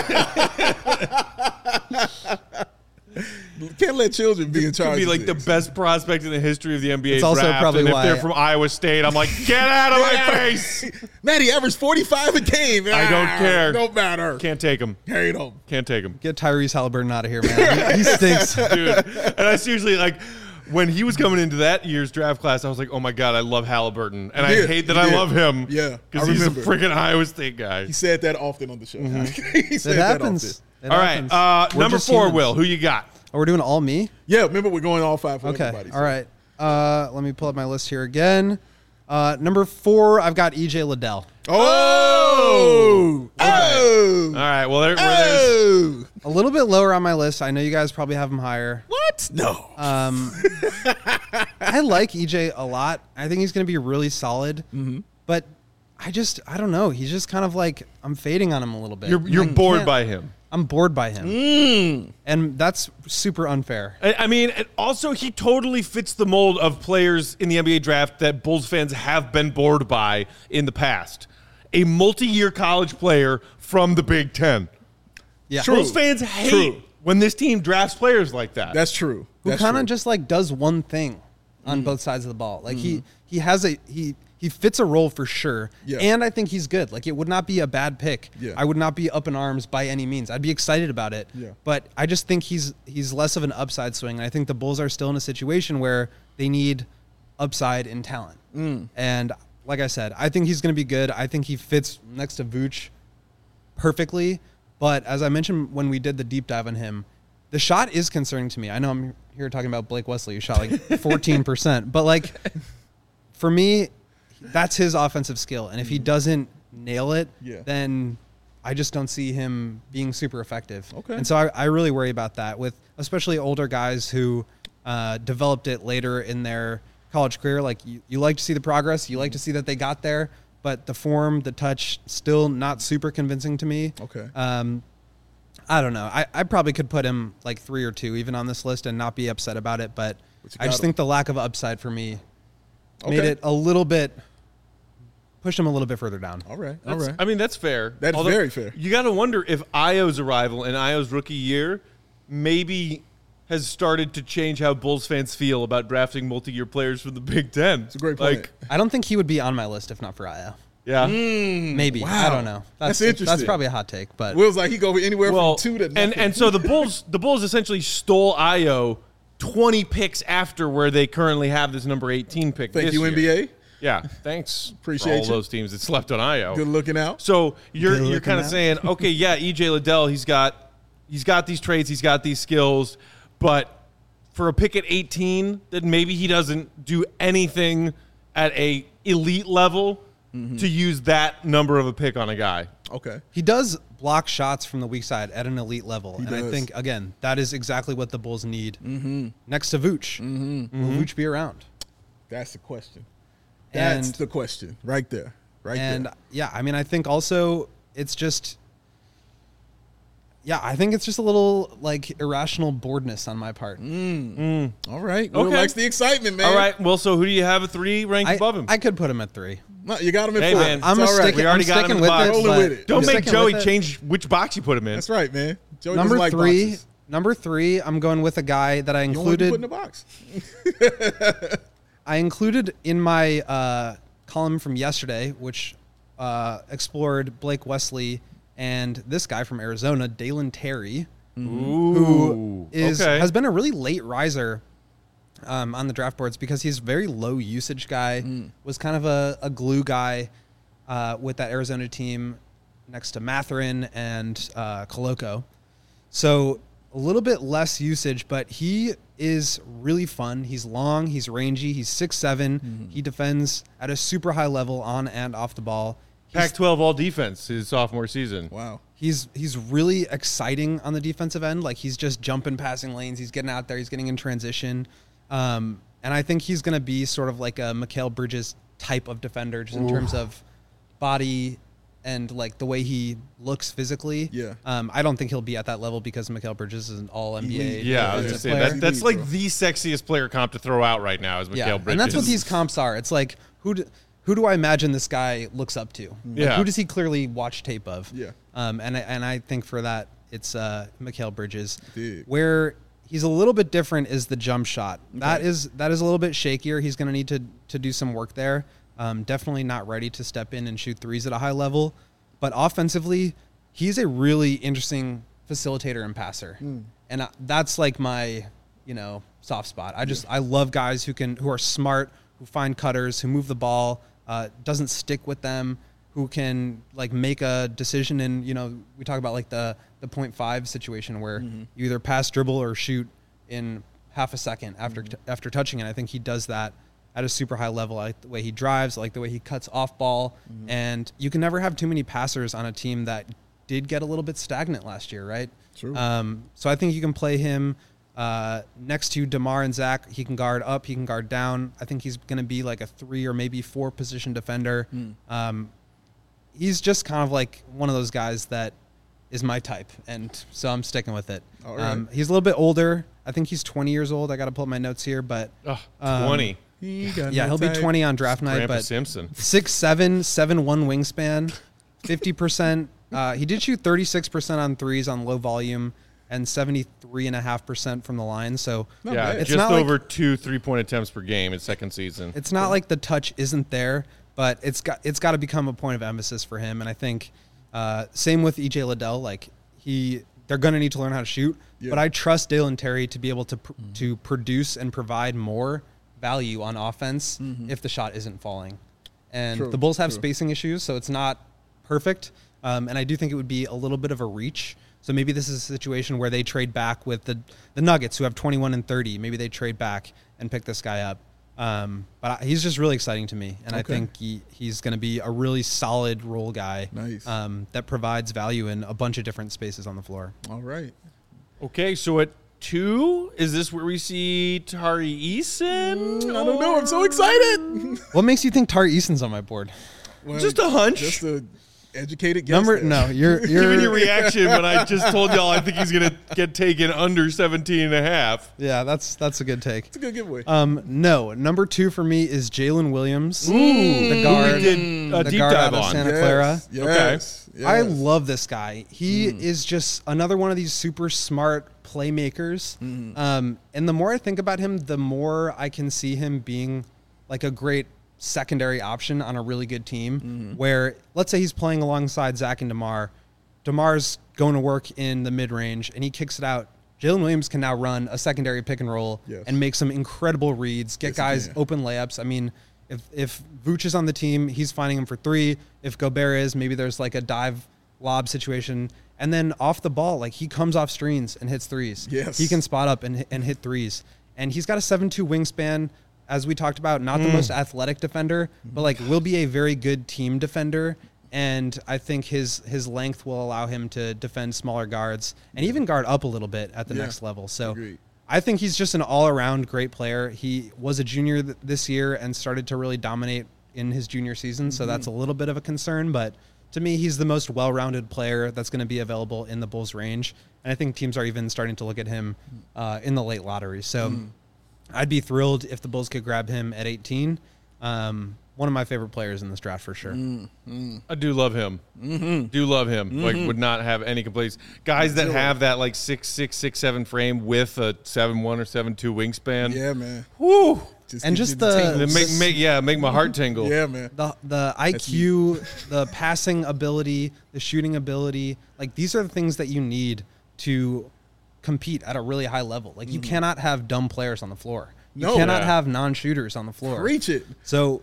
Can't let children be in charge. Could be the best prospect in the history of the NBA It's draft. also probably and if why they're from Iowa State, I'm get out of my face. Man, he averaged 45 a game. I don't care. Don't matter. Can't take him. Hate him. Can't take him. Get Tyrese Halliburton out of here, man. He stinks. Dude. And I seriously, when he was coming into that year's draft class, I was oh my God, I love Halliburton. And I hate that I love him. Yeah. Because he's a freaking Iowa State guy. He said that often on the show. He said It happens. that often. All right. Number 4, humans. Will. Who you got? Oh, we're doing all me? Yeah, remember we're going all 5 for Okay. everybody. All right. Let me pull up my list here again. Number 4, I've got EJ Liddell. Oh! Okay. Oh! All right. Well, there's a little bit lower on my list. I know you guys probably have him higher. What? No. I like EJ a lot. I think he's going to be really solid. But I don't know. He's just kind of I'm fading on him a little bit. You're bored by him. I'm bored by him. And that's super unfair. I mean, and also he totally fits the mold of players in the NBA draft that Bulls fans have been bored by in the past. A multi-year college player from the Big Ten. Yeah. Bulls fans hate when this team drafts players like that. That's true. Who kind of just does one thing. on both sides of the ball. Like he has he fits a role for sure. Yeah. And I think he's good. Like it would not be a bad pick. Yeah. I would not be up in arms by any means. I'd be excited about it. Yeah. But I just think he's less of an upside swing. And I think the Bulls are still in a situation where they need upside in talent. And like I said, I think he's going to be good. I think he fits next to Vooch perfectly. But as I mentioned when we did the deep dive on him, the shot is concerning to me. I know I'm here talking about Blake Wesley, who shot like 14%. But like, for me, that's his offensive skill. And if he doesn't nail it, then I just don't see him being super effective. Okay. And so I really worry about that with especially older guys who developed it later in their college career. Like you like to see the progress. You like to see that they got there. But the form, the touch, still not super convincing to me. Okay. I don't know. I probably could put him like 3 or 2 even on this list and not be upset about it. But I just think the lack of upside for me made it a little bit, pushed him a little bit further down. All right. I mean, that's fair. That's very fair. You got to wonder if Io's arrival and Io's rookie year maybe has started to change how Bulls fans feel about drafting multi-year players from the Big Ten. It's a great point. Like, I don't think he would be on my list if not for Io. yeah. Maybe. Wow. I don't know. That's interesting. That's probably a hot take. But Will's like he go anywhere Well, from 2 to nothing. and so the Bulls essentially stole Io 20 picks after where they currently have this number 18 pick. Thank this you, year. NBA. Yeah, thanks. Appreciate for all you. those teams that slept on Io. Good looking out. So you're looking kind of out. saying, okay, yeah, EJ Liddell, he's got these traits, he's got these skills, but for a pick at 18, that maybe he doesn't do anything at a elite level to use that number of a pick on a guy. Okay. he does block shots from the weak side at an elite level. And does. I think, again, that is exactly what the Bulls need next to Vooch. Will Vooch be around? That's the question. And- That's the question right there. Right And there. yeah, I mean, I think also it's just, I think it's just a little like irrational boredness on my part. All right. Will Okay. likes the excitement, man. All right, well, so who do you have at 3 ranked above him? I could put him at 3. No, you got him in Hey, 4. man. It's I'm all gonna right. stick. We already I'm got him in sticking the with box. it. Rolling but with it. Don't I'm make sticking Joey with it. change which box you put him in. That's right, man. Joey Number doesn't like 3. boxes. Number 3. I'm going with a guy that I You don't want to included. put in a box. I included in my column from yesterday, which explored Blake Wesley and this guy from Arizona, Dalen Terry, who has been a really late riser on the draft boards because he's a very low usage guy, was kind of a glue guy with that Arizona team next to Matherin and Koloko. So a little bit less usage, but he is really fun. He's long, he's rangy, he's 6'7". He defends at a super high level on and off the ball. Pac-12 all defense his sophomore season. Wow. He's really exciting on the defensive end. Like he's just jumping passing lanes. He's getting out there. He's getting in transition. And I think he's going to be sort of like a Mikal Bridges type of defender just in terms of body and like the way he looks physically. Yeah. I don't think he'll be at that level because Mikal Bridges is an all NBA. Yeah, I was defensive just player. saying that's like the sexiest player comp to throw out right now is Mikal Bridges. And that's what these comps are. It's like who do I imagine this guy looks up to? Like, Yeah. who does he clearly watch tape of? Yeah. And I think for that it's Mikal Bridges. Dude. Where he's a little bit different is the jump shot. That is a little bit shakier. He's going to need to do some work there. Definitely not ready to step in and shoot threes at a high level. But offensively, he's a really interesting facilitator and passer. And that's like my, soft spot. I love guys who are smart, who find cutters, who move the ball, doesn't stick with them, who can like make a decision. And, we talk about like the 0.5 situation where you either pass, dribble, or shoot in half a second after touching it. I think he does that at a super high level. I like the way he drives, I like the way he cuts off ball. And you can never have too many passers on a team that did get a little bit stagnant last year, right? True. So I think you can play him next to DeMar and Zach. He can guard up, he can guard down. I think he's going to be like a 3 or maybe 4 position defender. He's just kind of like one of those guys that is my type, and so I'm sticking with it. All right. He's a little bit older. I think he's 20 years old. I got to pull up my notes here, but 20. he'll be 20 on draft night. Grandpa But Simpson. 6'7", 7'1" wingspan, 50%. He did shoot 36% on threes on low volume, and 73.5% from the line. So Not Yeah, bad. it's just not like- over 2 3-point attempts per game in second season. it's not like the touch isn't there, but it's got to become a point of emphasis for him. And I think same with EJ Liddell. Like they're going to need to learn how to shoot. Yeah. But I trust Dalen Terry to be able to produce and provide more value on offense if the shot isn't falling. And True, the Bulls have true. spacing issues, so it's not perfect. And I do think it would be a little bit of a reach. So maybe this is a situation where they trade back with the Nuggets, who have 21 and 30. Maybe they trade back and pick this guy up. But he's just really exciting to me. And I Okay. think he's going to be a really solid role guy Nice. that provides value in a bunch of different spaces on the floor. All right. Okay, so at 2, is this where we see Tari Eason? I don't know. I'm so excited. What makes you think Tari Eason's on my board? Well, Just a hunch. Just a educated guess. there. No, you're Given your reaction when I just told y'all I think he's going to get taken under 17.5. Yeah, that's a good take. It's a good giveaway. No, number 2 for me is Jalen Williams, the Who guard. we did a the deep guard dive out of on. Santa Clara. Yes. Yes. I love this guy. He is just another one of these super smart playmakers. And the more I think about him, the more I can see him being like a great secondary option on a really good team where, let's say he's playing alongside Zach and DeMar. DeMar's going to work in the mid-range and he kicks it out. Jalen Williams can now run a secondary pick and roll Yes. and make some incredible reads, get Yes, he guys can. open layups. I mean, if Vooch is on the team, he's finding him for 3. If Gobert is, maybe there's like a dive lob situation. And then off the ball, like he comes off screens and hits threes. Yes. He can spot up and hit threes. And he's got a 7'2" wingspan, as we talked about, not the most athletic defender, but like will be a very good team defender. And I think his length will allow him to defend smaller guards and even guard up a little bit at the Yeah. next level. So Agreed. I think he's just an all-around great player. He was a junior this year and started to really dominate in his junior season, so that's a little bit of a concern. But to me, he's the most well-rounded player that's going to be available in the Bulls' range. And I think teams are even starting to look at him in the late lottery. So I'd be thrilled if the Bulls could grab him at 18. One of my favorite players in this draft for sure. I do love him. Do love him. Like, would not have any complaints. Guys that have that like 6'6", 6'7" frame with a 7'1" or 7'2" wingspan. Yeah, man. Woo! And gives just you the- tingles. Make my heart tingle. Yeah, man. The IQ, the passing ability, the shooting ability, like these are the things that you need to compete at a really high level. Like you cannot have dumb players on the floor. You No. cannot Yeah. have non-shooters on the floor. Preach it. So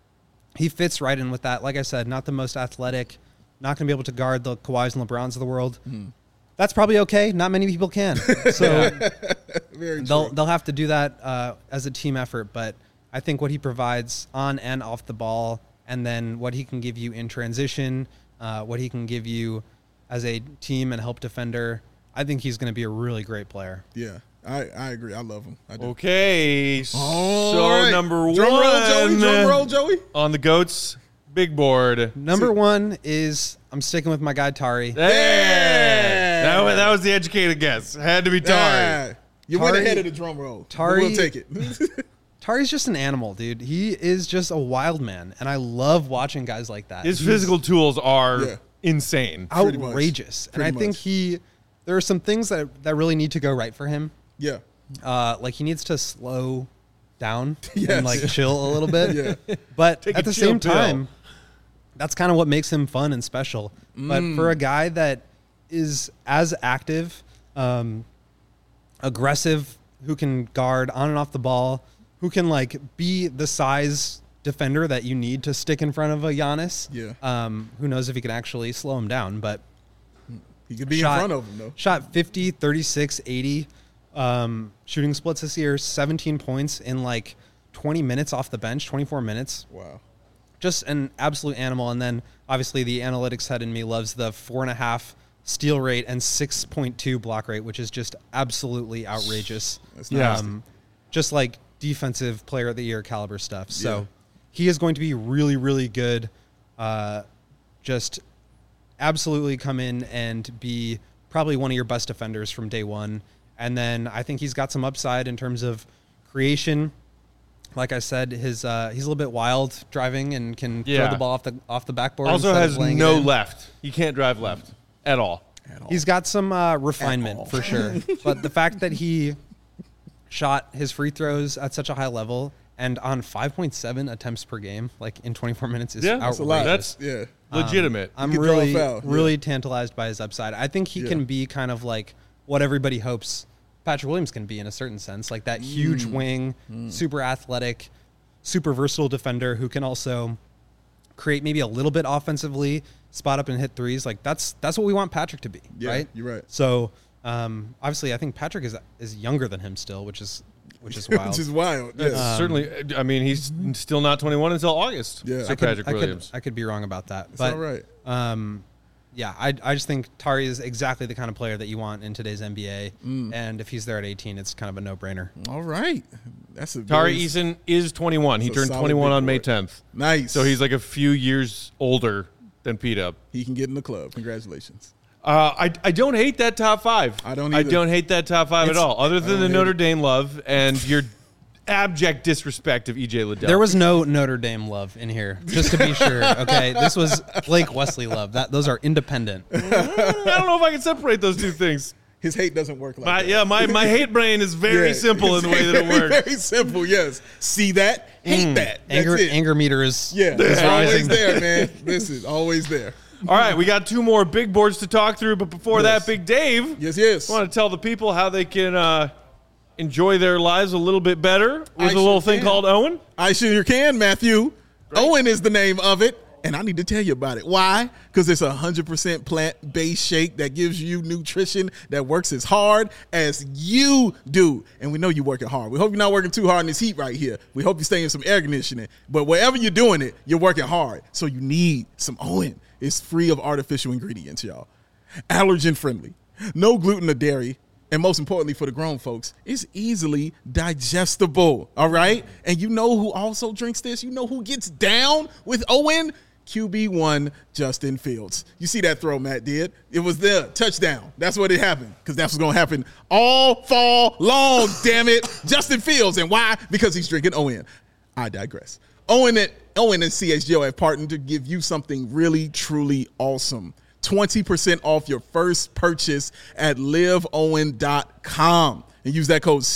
he fits right in with that. Like I said, not the most athletic, not going to be able to guard the Kawhis and LeBrons of the world. That's probably okay. Not many people can. So Very true. they'll have to do that as a team effort. But I think what he provides on and off the ball, and then what he can give you in transition, what he can give you as a team and help defender, I think he's going to be a really great player. Yeah, I agree. I love him. I do. Okay, so All right. number Drum one roll, Joey. Drum roll, Joey. on the GOAT's big board. Number 1 is, I'm sticking with my guy Tari. Hey! That was the educated guess. Had to be Tari. Yeah. You went Tari- ahead of the drum roll. Tari- We'll take it. Tari's just an animal, dude. He is just a wild man, and I love watching guys like that. His He's physical tools are Yeah. insane. Pretty much. outrageous. And Pretty I think much. there are some things that really need to go right for him. Yeah. Like he needs to slow down Yes. and like chill a little bit. Yeah. But Take at a the chill same pill. time, that's kind of what makes him fun and special. But for a guy that is as active, aggressive, who can guard on and off the ball, who can like be the size defender that you need to stick in front of a Giannis. Yeah. Who knows if he can actually slow him down, but He could be in front of him, though. Shot 50, 36, 80 shooting splits this year, 17 points in like 20 minutes off the bench, 24 minutes. Wow. Just an absolute animal. And then obviously the analytics head in me loves the 4.5 steal rate and 6.2 block rate, which is just absolutely outrageous. That's nasty. Just like defensive player of the year caliber stuff. So Yeah. he is going to be really, really good. Just absolutely come in and be probably one of your best defenders from day one. And then I think he's got some upside in terms of creation. Like I said, he's a little bit wild driving and can Yeah. throw the ball off the backboard. Also instead has of laying it no in. left. He can't drive left at all. He's got some refinement for sure. But the fact that he shot his free throws at such a high level and on 5.7 attempts per game, like in 24 minutes, is outrageous. That's a lot. That's legitimate. I'm You could draw a really, foul, really tantalized by his upside. I think he can be kind of like what everybody hopes Patrick Williams can be in a certain sense, like that huge wing, super athletic, super versatile defender who can also create maybe a little bit offensively, spot up and hit threes. Like that's what we want Patrick to be, right? You're right. So obviously, I think Patrick is younger than him still, which is wild. Which is wild. Yes. Certainly, I mean, he's still not 21 until August. Yeah. Sir Patrick Williams. I could be wrong about that. It's But all right. yeah, I just think Tari is exactly the kind of player that you want in today's NBA. And if he's there at 18, it's kind of a no-brainer. All right. That's a Tari very- Eason is 21. He That's a turned solid 21 big on May boy. 10th. Nice. So he's like a few years older than P-Dub. He can get in the club. Congratulations. I don't hate that top five. I don't I either. don't hate that top five at all, other than the hate Notre it. Dame love and your abject disrespect of EJ Liddell. There was no Notre Dame love in here, just to be sure. Okay, this was Blake Wesley love. Those are independent. I don't know if I can separate those two things. His hate doesn't work like that. My hate brain is very Yeah. simple in the way that it Very, works. Very simple, yes. See that? Hate that. That's it. Anger meter is Yeah, is it's always rising. there, man. Listen, always there. All right, we got two more big boards to talk through, but before Yes. that, Big Dave, Yes. I want to tell the people how they can enjoy their lives a little bit better with I a little sure thing can. called Owen. I sure can, Matthew. Owen is the name of it, and I need to tell you about it. Why? Because it's 100% plant-based shake that gives you nutrition that works as hard as you do. And we know you're working hard. We hope you're not working too hard in this heat right here. We hope you stay in some air conditioning. But wherever you're doing it, you're working hard. So you need some Owen. It's free of artificial ingredients, y'all. Allergen-friendly. No gluten or dairy. And most importantly for the grown folks, it's easily digestible, all right? And you know who also drinks this? You know who gets down with Owen? QB1 Justin Fields. You see that throw Matt did? It was the touchdown. That's what it happened, because that's what's going to happen all fall long, damn it. Justin Fields. And why? Because he's drinking Owen. I digress. Owen and CHGO have partnered to give you something really, truly awesome. 20% off your first purchase at liveowen.com and use that code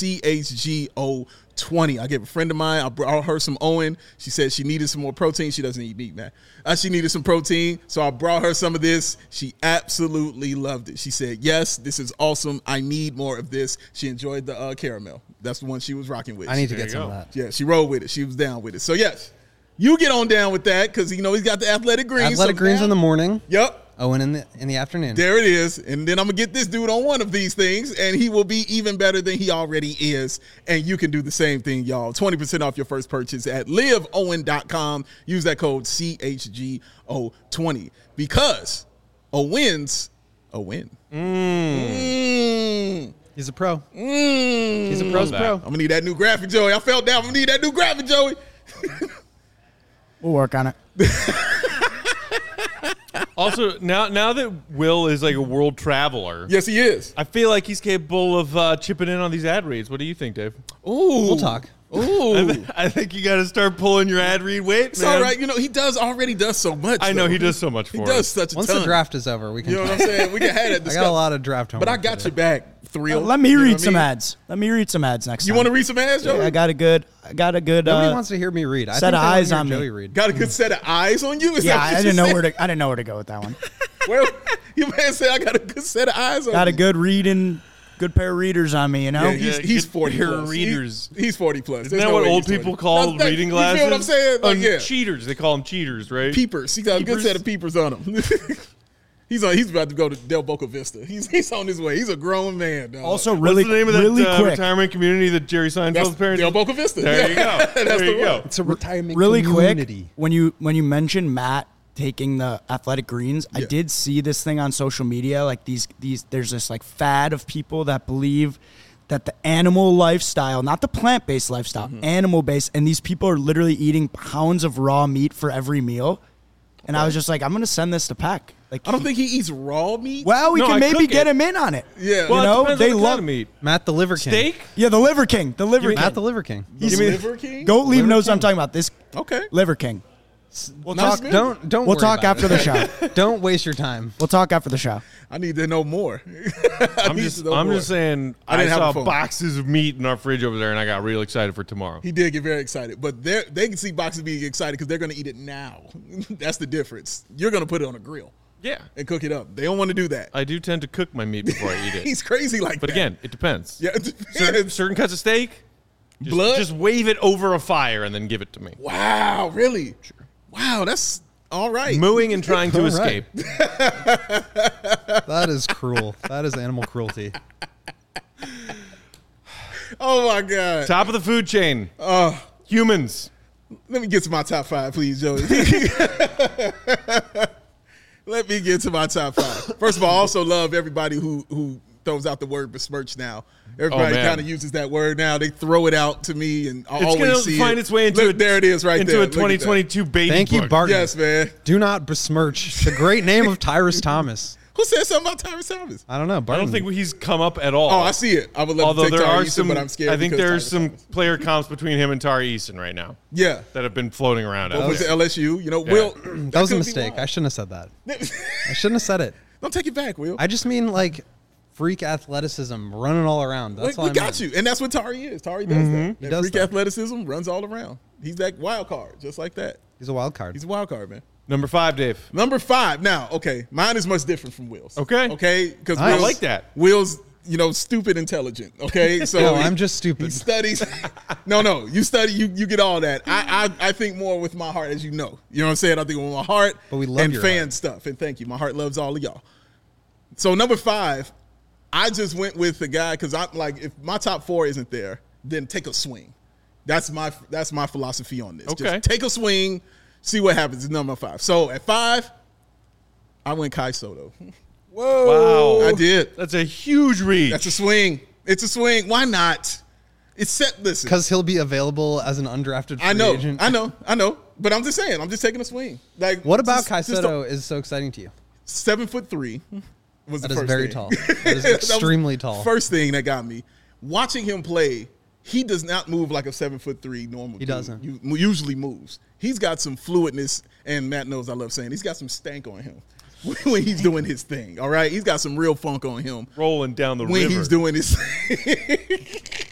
CHGO20. I gave a friend of mine, I brought her some Owen. She said she needed some more protein. She doesn't eat meat, man. She needed some protein, so I brought her some of this. She absolutely loved it. She said, yes, this is awesome. I need more of this. She enjoyed the caramel. That's the one she was rocking with. I need to There get you some go. of that. Yeah, she rolled with it. She was down with it. So, yes, you get on down with that because, he's got the athletic greens. Athletic greens in the morning. Yep. Owen in the afternoon. There it is. And then I'm going to get this dude on one of these things, and he will be even better than he already is. And you can do the same thing, y'all. 20% off your first purchase at liveowen.com. Use that code CHGO20 because a win's a win. He's a pro. He's a pro's pro. I'm going to need that new graphic, Joey. I felt down. I'm going to need that new graphic, Joey. We'll work on it. Also, now that Will is like a world traveler, Yes, he is. I feel like he's capable of chipping in on these ad reads. What do you think, Dave? Ooh. We'll talk. Ooh. I think you got to start pulling your ad read weight, It's man. all right. He already does so much. I know though. he does so much for He us. does such a Once ton. the draft is over, we can You know what talk. I'm saying? We can have that I discussion. got a lot of draft homework. But I got to your do. back, Thrill. Let me You know read what I some mean? ads. Let me read some ads next You time. want to read some ads, Joey? I got a good Nobody wants to hear me read. I set think of they wanna eyes hear on me. Joey read. Got a good set of eyes on you? Is Yeah, that what I you didn't know said? I didn't know where to go with that one. Well, your man said I got a good set of eyes on Got a you. good reading, good pair of readers on me. You know. Yeah, he's good 40 pair plus. of readers. He's 40 plus. Isn't that what old people call reading glasses? You feel what I'm saying? Like, yeah. Cheaters. They call them cheaters, right? Peepers. He got a good Peepers? set of peepers on him. He's about to go to Del Boca Vista. He's on his way. He's a grown man, dog. Also, What's really, the name of that really quick. retirement community that Jerry that's Seinfeld's parents? Del Boca Vista. There you go. That's There the you go. one. It's a retirement Really community. quick, when you mentioned Matt taking the athletic greens, I Yeah. did see this thing on social media. Like these there's this like fad of people that believe that the animal lifestyle, not the plant-based lifestyle, animal-based, and these people are literally eating pounds of raw meat for every meal. And I was just like, I'm gonna send this to Peck. Like, I don't think he eats raw meat. well, we No, can I maybe cook get it. him in on it. Yeah. Well, You know, it depends they on the kind love of meat. Matt the Liver King. Steak? Yeah, the Liver King. The Liver King. Matt the Liver King. The Give me- Liver King? Goat Leave Liver knows what I'm King. talking about. This Okay. Liver King. We'll Nice talk. man. Don't. We'll worry talk about after the show. it. Don't waste your time. We'll talk after the show. I need to know more. I'm just saying I I, didn't have a saw phone. boxes of meat in our fridge over there, and I got real excited for tomorrow. He did get very excited, but they can see boxes being excited because they're going to eat it now. That's the difference. You're going to put it on a grill Yeah. and cook it up. They don't want to do that. I do tend to cook my meat before I eat it. He's crazy like But that. again, it depends. Yeah, Certain cuts of steak, blood. just wave it over a fire and then give it to me. Wow, really? Sure. Wow, that's all right. Mooing and trying to All right. escape. That is cruel. That is animal cruelty. Oh my God. Top of the food chain. Humans. Let me get to my top 5, please, Joey. Let me get to my top 5. First of all, I also love everybody who throws out the word besmirch now. Everybody man. kind of uses that word now. They throw it out to me, and I It's always going see to find it. its way into Look, there it is right into there. a Look at that. 2022 baby Thank you, book. Barton. Yes, man. Do not besmirch the great name of Tyrus Thomas. Who said something about Tyrus Thomas? I don't know. I Barton. don't think he's come up at all. Oh, I see it. I would love Although to take there Tari are Eason, some, but I'm scared. I think because there's Tyrus some Thomas. player comps between him and Tari Eason right now Yeah. that have been floating around. out Over to there. LSU. You know, Yeah. Will. That was a could be mistake. I wild. shouldn't have said that. I shouldn't have said it. Don't take it back, Will. I just mean like freak athleticism, running all around. That's all we I got meant. you, and that's what Tari is. Tari does that. That does freak that. athleticism runs all around. He's that wild card, just like that. He's a wild card. He's a wild card, man. Number 5, Dave. Number 5. Now, okay, mine is much different from Will's. Okay. Okay, because I like that. Will's, stupid intelligent. Okay, so No, I'm just He stupid. studies. No, you study. You get all that. I think more with my heart, as you know. You know what I'm saying? I think with my heart. But we love and your fan heart. stuff. And thank you. My heart loves all of y'all. So number 5, I just went with the guy because I'm like, if my top 4 isn't there, then take a swing. That's my philosophy on this. Okay. Just take a swing, see what happens. It's number 5. So at 5, I went Kai Soto. Wow. I did. That's a huge reach. That's a swing. It's a swing. Why not? It's set. Listen, Because he'll be available as an undrafted free I know, agent. I know. But I'm just saying. I'm just taking a swing. Like, What about just- Kai just Soto is so exciting to you? 7'3" was That the is first very thing. tall. That is was extremely tall. First thing that got me watching him play. He does not move like a 7'3" normal. He dude. doesn't. Usually moves. He's got some fluidness, and Matt knows I love saying he's got some stank on him when he's doing his thing. All right, he's got some real funk on him rolling down the when river. he's doing his thing.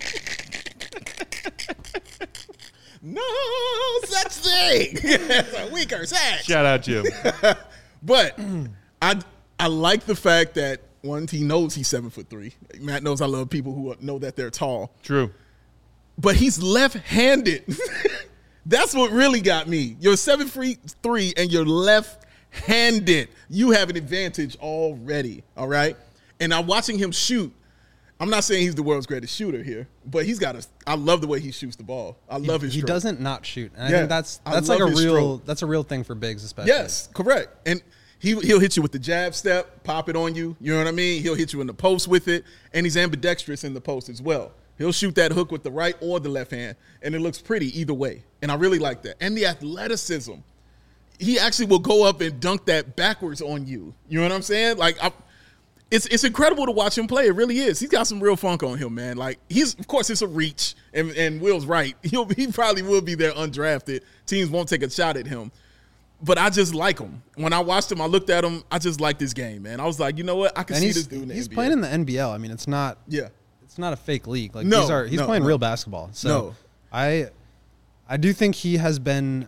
No such thing. It's a weaker sex. Shout out, Jim. But I like the fact that one, he knows he's 7'3". Matt knows I love people who know that they're tall. True. But he's left-handed. That's what really got me. You're 7'3" and you're left-handed. You have an advantage already. All right. And I'm watching him shoot. I'm not saying he's the world's greatest shooter here, but he's got I love the way he shoots the ball. I love his He stroke. doesn't not shoot. And Yeah, I think that's I like a love his real stroke. that's a real thing for bigs, especially. Yes, correct. And he'll hit you with the jab step, pop it on you. You know what I mean? He'll hit you in the post with it, and he's ambidextrous in the post as well. He'll shoot that hook with the right or the left hand, and it looks pretty either way. And I really like that. And the athleticism. He actually will go up and dunk that backwards on you. You know what I'm saying? Like, it's incredible to watch him play. It really is. He's got some real funk on him, man. Like, of course, it's a reach, and Will's right. He probably will be there undrafted. Teams won't take a shot at him. But I just like him. When I watched him, I looked at him. I just like this game, man. I was like, you know what? I can And see he's this dude in the he's NBA. playing in the NBL. I mean, it's not Yeah. it's not a fake league. Like No, he's no, playing no. real basketball. So No. I do think he has been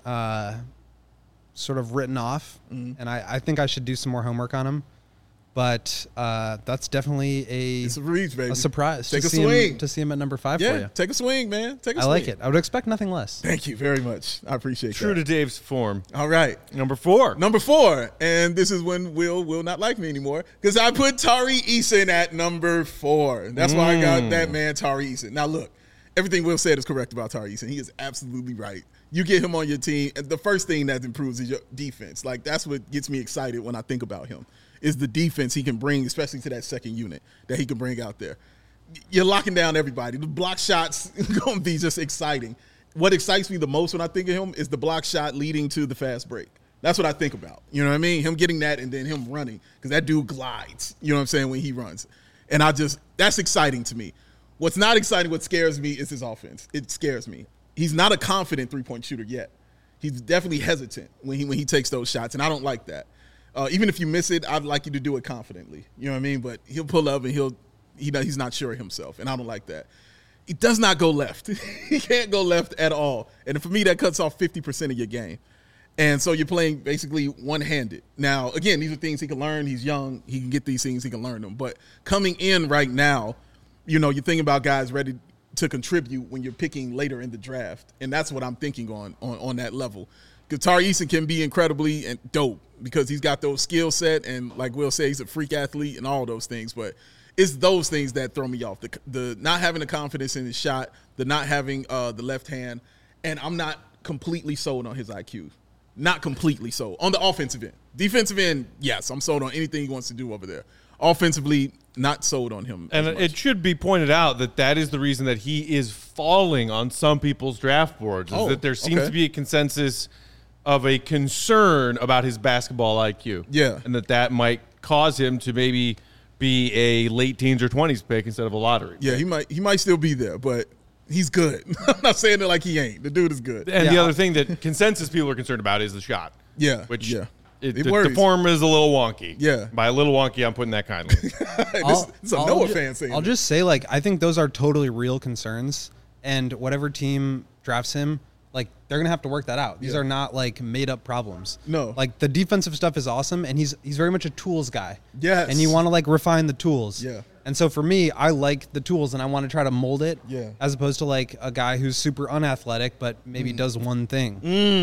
sort of written off, and I think I should do some more homework on him. But that's definitely It's a reach, baby. a surprise Take to a see swing. him to see him at number 5 for Yeah, you. take a swing, man. Take a I swing. like it. I would expect nothing less. Thank you very much. I appreciate True to that. Dave's form. All right. Number 4. Number 4, and this is when Will not like me anymore, because I put Tari Eason at number 4. That's why I got that man, Tari Eason. Now, look, everything Will said is correct about Tari Eason. He is absolutely right. You get him on your team, and the first thing that improves is your defense. Like, that's what gets me excited when I think about him, is the defense he can bring, especially to that second unit that he can bring out there. You're locking down everybody. The block shots going to be just exciting. What excites me the most when I think of him is the block shot leading to the fast break. That's what I think about. You know what I mean? Him getting that and then him running, because that dude glides, you know what I'm saying, when he runs. And that's exciting to me. What's not exciting, what scares me is his offense. It scares me. He's not a confident three-point shooter yet. he's definitely hesitant when he takes those shots, and I don't like that. Even if you miss it, I'd like you to do it confidently. You know what I mean? But he'll pull up and he's not sure of himself, and I don't like that. He does not go left. He can't go left at all. And for me, that cuts off 50% of your game. And so you're playing basically one-handed. Now, again, these are things he can learn. He's young. He can get these things. He can learn them. But coming in right now, you're thinking about guys ready to contribute when you're picking later in the draft. And that's what I'm thinking on that level. Because Tari Eason can be incredibly and dope because he's got those skill set. And like Will said, he's a freak athlete and all those things. But it's those things that throw me off. The not having the confidence in his shot, the not having the left hand. And I'm not completely sold on his IQ. Not completely sold. On the offensive end. Defensive end, yes, I'm sold on anything he wants to do over there. Offensively, not sold on him. And it should be pointed out that is the reason that he is falling on some people's draft boards, is that there seems to be a consensus of a concern about his basketball IQ. Yeah. And that might cause him to maybe be a late teens or 20s pick instead of a lottery Yeah, pick. he might still be there, but he's good. I'm not saying it like he ain't. The dude is good. And the other thing that consensus people are concerned about is the shot. Yeah, Which yeah. the form is a little wonky. Yeah. By a little wonky, I'm putting that kindly. This is a Noah fan saying I'll this. just say, I think those are totally real concerns, and whatever team drafts him, they're gonna have to work that out. These are not made up problems. No. The defensive stuff is awesome, and he's very much a tools guy. Yes. And you want to refine the tools. Yeah. And so for me, I like the tools, and I want to try to mold it. Yeah. As opposed to a guy who's super unathletic but maybe does one thing.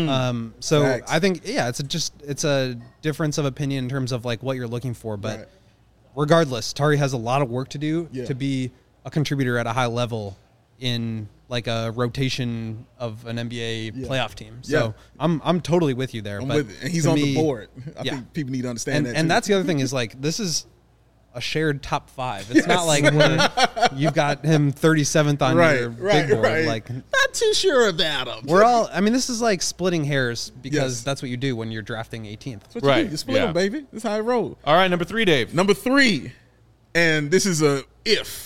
So Facts. I think it's a difference of opinion in terms of what you're looking for. But Right. regardless, Tari has a lot of work to do Yeah. to be a contributor at a high level in a rotation of an NBA playoff team. So Yeah. I'm totally with you there. I'm but with it. And he's to on me- the board. I yeah. think people need to understand that. And too. that's the other thing is this is a shared top 5. It's not where you've got him 37th on your big board. Right. Not too sure about him. We're all. I mean, this is splitting hairs because Yes. that's what you do when you're drafting 18th. That's what you Right, do. You split yeah. them, baby. That's how I roll. All right, number 3, Dave. Number 3, and this is a if.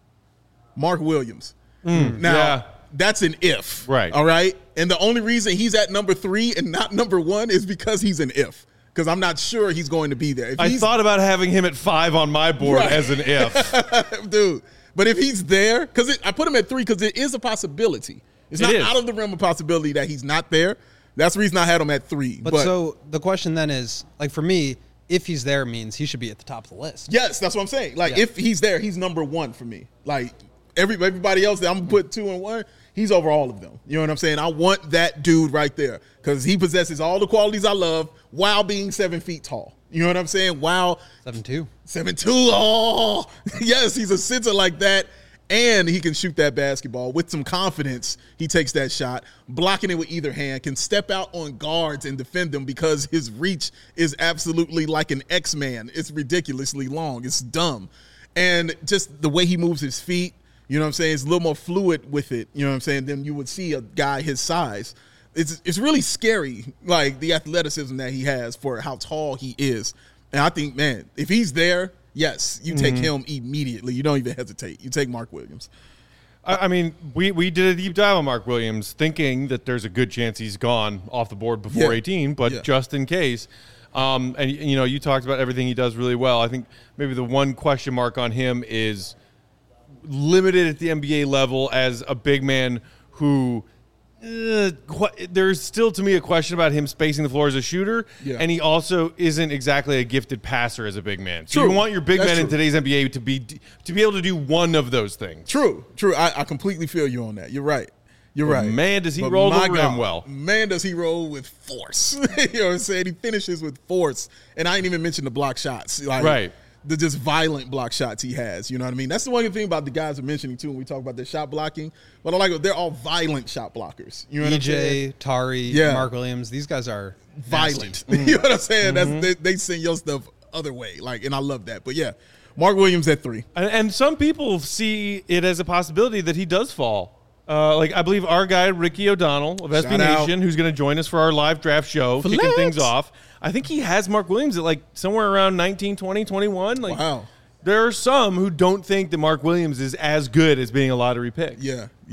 Mark Williams. Now, yeah. that's an if. Right. All right? And the only reason he's at number 3 and not number 1 is because he's an if. Because I'm not sure he's going to be there. If I he's, thought about having him at 5 on my board Right. as an if. dude, but if he's there, because I put him at 3 because it is a possibility. It's It not is. out of the realm of possibility that he's not there. That's the reason I had him at 3. But so the question then is, for me, if he's there means he should be at the top of the list. yes, that's what I'm saying. Yeah. If he's there, he's number 1 for me. Everybody else that I'm going to put 2 and 1, he's over all of them. You know what I'm saying? I want that dude right there because he possesses all the qualities I love while being 7 feet tall. You know what I'm saying? While 7'2". 7'2". Oh, yes, he's a center like that. And he can shoot that basketball with some confidence. He takes that shot, blocking it with either hand, can step out on guards and defend them because his reach is absolutely like an X-Man. It's ridiculously long. It's dumb. And just the way he moves his feet, you know what I'm saying? It's a little more fluid with it, you know what I'm saying, than you would see a guy his size. It's really scary, the athleticism that he has for how tall he is. And I think, man, if he's there, yes, you take him immediately. You don't even hesitate. You take Mark Williams. I mean, we did a deep dive on Mark Williams thinking that there's a good chance he's gone off the board before Yeah. 18, but Yeah. just in case. And, you talked about everything he does really well. I think maybe the one question mark on him is limited at the NBA level as a big man who there's still to me a question about him spacing the floor as a shooter, Yeah. and he also isn't exactly a gifted passer as a big man. So True. you want your big That's man in true. today's NBA to be able to do one of those things. True. I completely feel you on that. You're right. You're But right. man, does he roll the my rim God, well. Man, does he roll with force. You know what I'm saying? He finishes with force. And I ain't even mentioned the block shots. Right. The just violent block shots he has. You know what I mean? That's the one thing about the guys we're mentioning, too, when we talk about their shot blocking. But I like it. They're all violent shot blockers. You know what I'm saying? EJ, Tari, Yeah. Mark Williams, these guys are Violent. nasty. You know what I'm saying? They send your stuff other way. And I love that. But, yeah, Mark Williams at 3. And some people see it as a possibility that he does fall. I believe our guy, Ricky O'Donnell of SB Shout out. Nation, who's going to join us for our live draft show, kicking Flex. things off. I think he has Mark Williams at somewhere around 19, 20, 21. Wow. There are some who don't think that Mark Williams is as good as being a lottery pick. Yeah.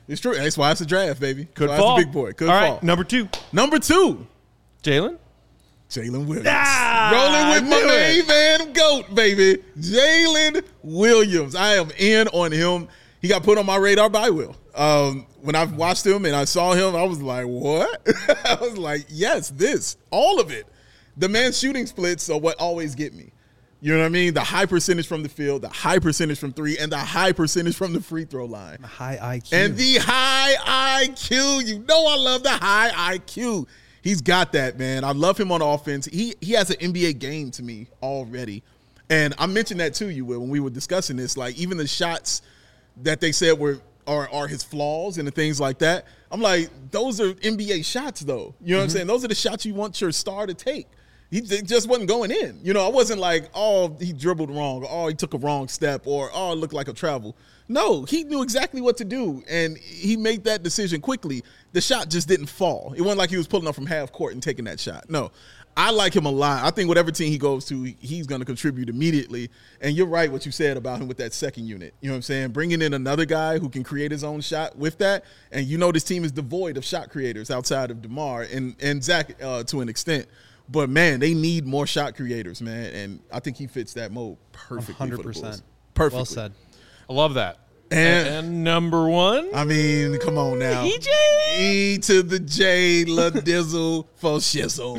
It's true. That's why it's a draft, baby. Could That's why fall. it's a big boy. Could All fall. right, number 2. Number 2, Jalen? Jalen Williams. Ah, Rolling with I my knew it. main man, GOAT, baby. Jalen Williams. I am in on him. He got put on my radar by Will. When I watched him and I saw him, I was like, what? I was like, yes, this. All of it. The man's shooting splits are what always get me. You know what I mean? The high percentage from the field, the high percentage from 3, and the high percentage from the free throw line. High IQ. And the high IQ. You know I love the high IQ. He's got that, man. I love him on offense. He has an NBA game to me already. And I mentioned that to you, Will, when we were discussing this. Like, even the shots that they said are his flaws and the things like that, I'm like, those are NBA shots, though. You know what I'm saying? Those are the shots you want your star to take. He just wasn't going in. You know, I wasn't like, oh, he dribbled wrong, or oh, he took a wrong step, or oh, it looked like a travel. No, he knew exactly what to do, and he made that decision quickly. The shot just didn't fall. It wasn't like he was pulling up from half court and taking that shot. No, I like him a lot. I think whatever team he goes to, he's going to contribute immediately. And you're right what you said about him with that second unit. You know what I'm saying? Bringing in another guy who can create his own shot with that. And you know this team is devoid of shot creators outside of DeMar and Zach to an extent. But, man, they need more shot creators, man. And I think he fits that mold perfectly 100%. For the Bulls. Perfectly. Well said. I love that. And number 1? I mean, come on now. EJ? E to the J, La Dizzle for shizzle.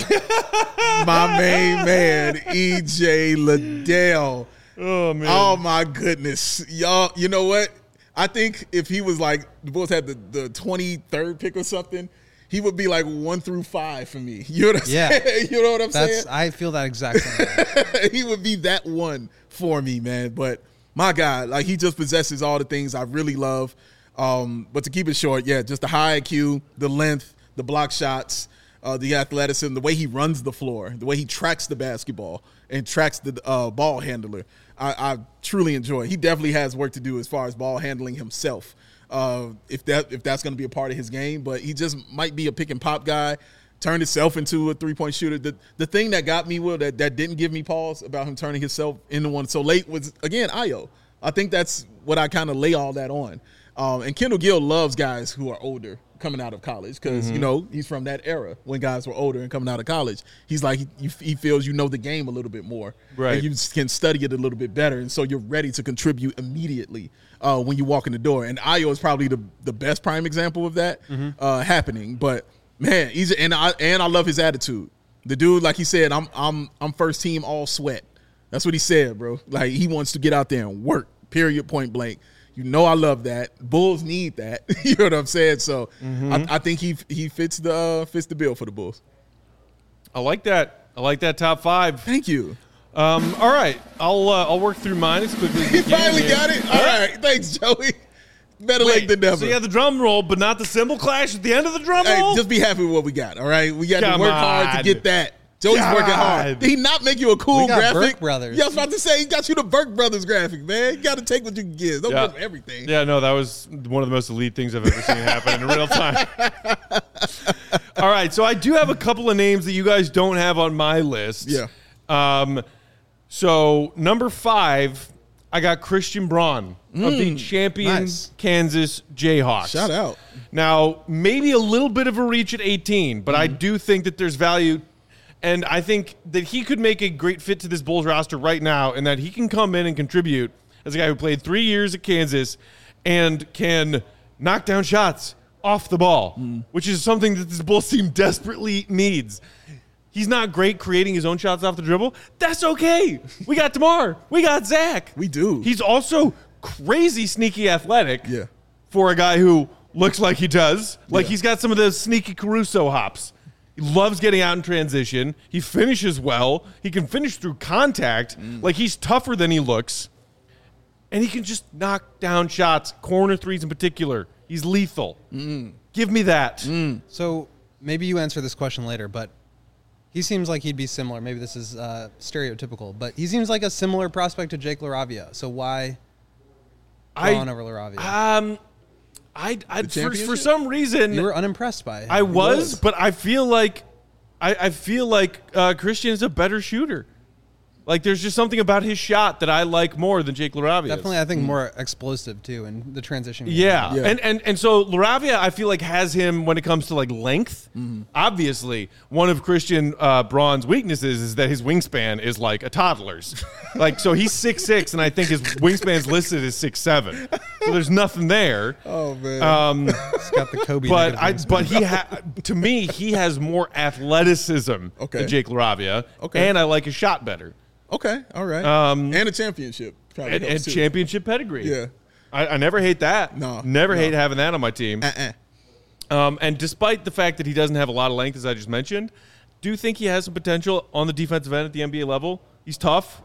My main man, EJ Liddell. Oh, man. Oh, my goodness. Y'all, you know what? I think if he was like, the Bulls had the 23rd pick or something, he would be like 1 through 5 for me. You know what I'm saying? You know what I'm saying? I feel that exact same way. He would be that one for me, man. But my God, like, he just possesses all the things I really love. But to keep it short, yeah, just the high IQ, the length, the block shots, the athleticism, the way he runs the floor, the way he tracks the basketball and tracks the ball handler. I truly enjoy. He definitely has work to do as far as ball handling himself. If that's going to be a part of his game, but he just might be a pick and pop guy, turned himself into a 3-point shooter. The thing that got me, Will, that didn't give me pause about him turning himself into one so late was, again, Ayo. I think that's what I kind of lay all that on. And Kendall Gill loves guys who are older coming out of college because, you know, he's from that era when guys were older and coming out of college. He's like, he feels you know the game a little bit more. Right. And you can study it a little bit better. And so you're ready to contribute immediately when you walk in the door. And Ayo is probably the best prime example of that happening. But, man, I love his attitude. The dude, like he said, I'm first team all sweat. That's what he said, bro. Like, he wants to get out there and work, period, point blank. You know I love that. Bulls need that. You know what I'm saying? So I think he fits the bill for the Bulls. I like that. I like that top 5. Thank you. All right, I'll work through mine as quickly as He we can. finally got it. All right, thanks, Joey. Better late than never. So you had the drum roll, but not the cymbal clash at the end of the drum Hey, roll? just be happy with what we got. All right, we got to Come work hard to on. get that. Joey's working hard. Did he not make you a cool We got graphic? Burke Brothers. Yeah, I was about to say he got you the Burke Brothers graphic, man. You got to take what you can get. Don't give him everything. Yeah, no, that was one of the most elite things I've ever seen happen in real time. All right, so I do have a couple of names that you guys don't have on my list. Yeah. So number 5, I got Christian Braun of the champion Nice. Kansas Jayhawks. Shout out. Now, maybe a little bit of a reach at 18, but I do think that there's value. And I think that he could make a great fit to this Bulls roster right now and that he can come in and contribute as a guy who played 3 years at Kansas and can knock down shots off the ball, which is something that this Bulls team desperately needs. He's not great creating his own shots off the dribble. That's okay. We got DeMar. We got Zach. We do. He's also crazy sneaky athletic Yeah. for a guy who looks like he does. Like Yeah. he's got some of the sneaky Caruso hops. He loves getting out in transition. He finishes well. He can finish through contact. Like he's tougher than he looks. And he can just knock down shots, corner threes in particular. He's lethal. Give me that. So maybe you answer this question later, but he seems like he'd be similar. Maybe this is stereotypical, but he seems like a similar prospect to Jake LaRavia. So why Braun over LaRavia? For championship? some reason, You were unimpressed by him. I was, but I feel like Christian is a better shooter. Like, there's just something about his shot that I like more than Jake LaRavia. Definitely, I think more explosive too in the transition game. Yeah. Yeah. And so LaRavia, I feel like, has him when it comes to like length. Obviously, one of Christian Braun's weaknesses is that his wingspan is like a toddler's. Like, so he's 6'6", and I think his wingspan's listed as 6'7". So there's nothing there. Oh man. He's got the Kobe. But to me, he has more athleticism Okay. than Jake LaRavia. Okay. And I like his shot better. Okay, all right. And a championship. Probably And helps, too. championship pedigree. Yeah. I never hate that. No, Never no. hate having that on my team. And despite the fact that he doesn't have a lot of length, as I just mentioned, do think he has some potential on the defensive end at the NBA level. He's tough.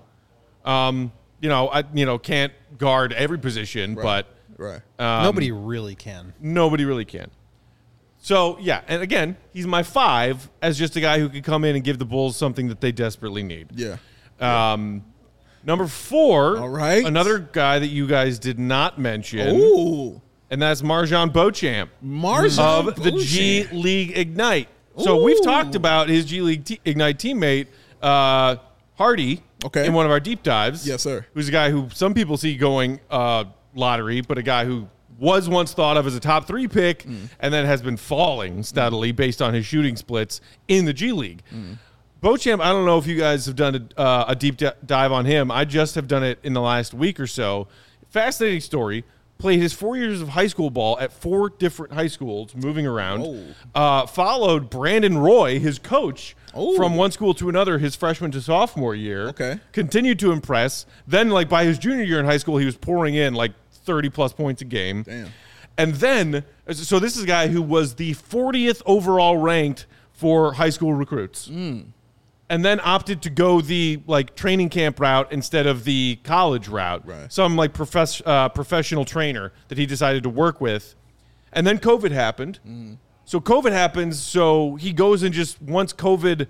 Can't guard every position, Right. but Right. Nobody really can. nobody really can. So, yeah, and again, he's my 5 as just a guy who could come in and give the Bulls something that they desperately need. Yeah. Number 4, All right. another guy that you guys did not mention, Ooh. and that's Marjan Beauchamp MarJon of the G Beauchamp. League Ignite. So we've talked about his G League Ignite teammate, Hardy, Okay. in one of our deep dives. Yes, sir. Who's a guy who some people see going lottery, but a guy who was once thought of as a top 3 pick and then has been falling steadily based on his shooting splits in the G League. Beauchamp, I don't know if you guys have done a deep dive on him. I just have done it in the last week or so. Fascinating story. Played his 4 years of high school ball at 4 different high schools, moving around. Followed Brandon Roy, his coach, from one school to another his freshman to sophomore year. Okay. Continued to impress. Then, like, by his junior year in high school, he was pouring in, like, 30-plus points a game. Damn. And then, so this is a guy who was the 40th overall ranked for high school recruits. And then opted to go the like training camp route instead of the college route. Right. Some like professional trainer that he decided to work with. And then COVID happened. So COVID happens, so he goes and just once COVID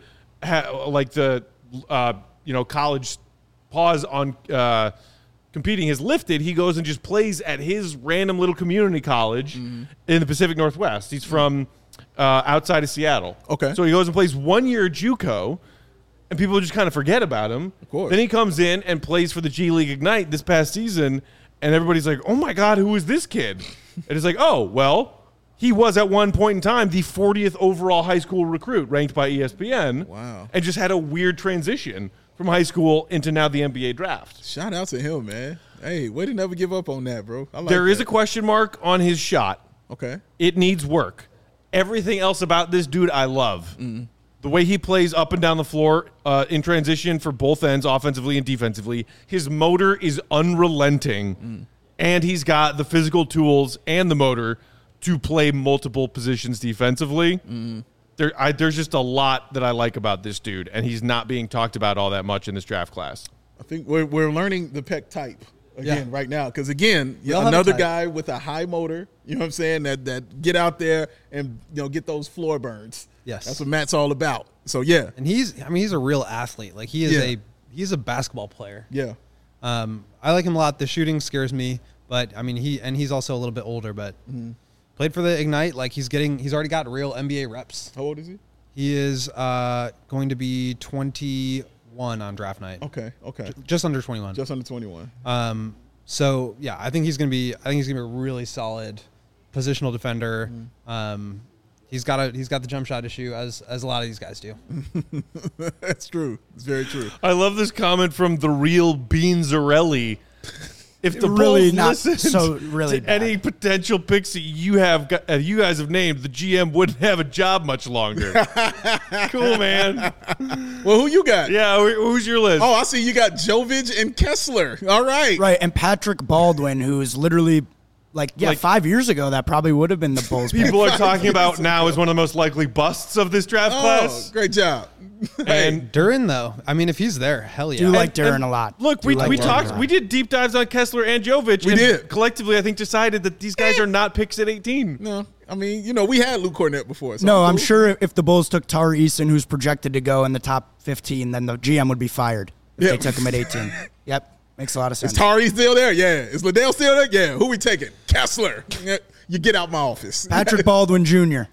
college pause on competing is lifted, he goes and just plays at his random little community college in the Pacific Northwest. He's from outside of Seattle. Okay. So he goes and plays 1 year JUCO, and people just kind of forget about him. Of course. Then he comes in and plays for the G League Ignite this past season, and everybody's like, oh my God, who is this kid? And it's like, oh, well, he was at one point in time the 40th overall high school recruit ranked by ESPN. Wow. And just had a weird transition from high school into now the NBA draft. Shout out to him, man. Hey, way to never give up on that, bro. I like There is that. a question mark on his shot. Okay. It needs work. Everything else about this dude I love. The way he plays up and down the floor in transition for both ends, offensively and defensively. His motor is unrelenting. And he's got the physical tools and the motor to play multiple positions defensively. There's just a lot that I like about this dude, and he's not being talked about all that much in this draft class. I think we're learning the Peck type again right now. Because, again, all have a another type. guy with a high motor, you know what I'm saying, that get out there and, get those floor burns. Yes. That's what Matt's all about. So, yeah. And he's a real athlete. Like he is Yeah. he's a basketball player. Yeah. I like him a lot. The shooting scares me, but I mean he's also a little bit older, but played for the Ignite. Like he's already got real NBA reps. How old is he? He is going to be 21 on draft night. Okay. Just under 21. Just under 21. So yeah, I think he's gonna be a really solid positional defender. He's got the jump shot issue as a lot of these guys do. That's true. It's very true. I love this comment from the real Beanzarelli. If the Really Bulls not listened so really to bad. any potential picks that you guys have named, the GM wouldn't have a job much longer. Cool, man. Well, who you got? Yeah, who's your list? Oh, I see you got Jovic and Kessler. All right. Right, and Patrick Baldwin, who's literally, Like- 5 years ago, that probably would have been the Bulls pick. People are talking about now as one of the most likely busts of this draft Oh, class. great job. And Duran though, I mean if he's there, hell yeah. Do like Duran a lot. look, we Do like Duran talked, a lot. we did deep dives on Kessler and Jovic. We and did. collectively, I think, decided that these guys are not picks at 18. No, I mean, we had Luke Cornett before. So No, I'm cool. sure if the Bulls took Tari Eason, who's projected to go in the top 15, then the GM would be fired if Yeah. they took him at 18. Yep, makes a lot of sense. Is Tari still there? Yeah. Is Liddell still there? Yeah. Who we taking? Kessler. You get out my office. Patrick Baldwin Jr.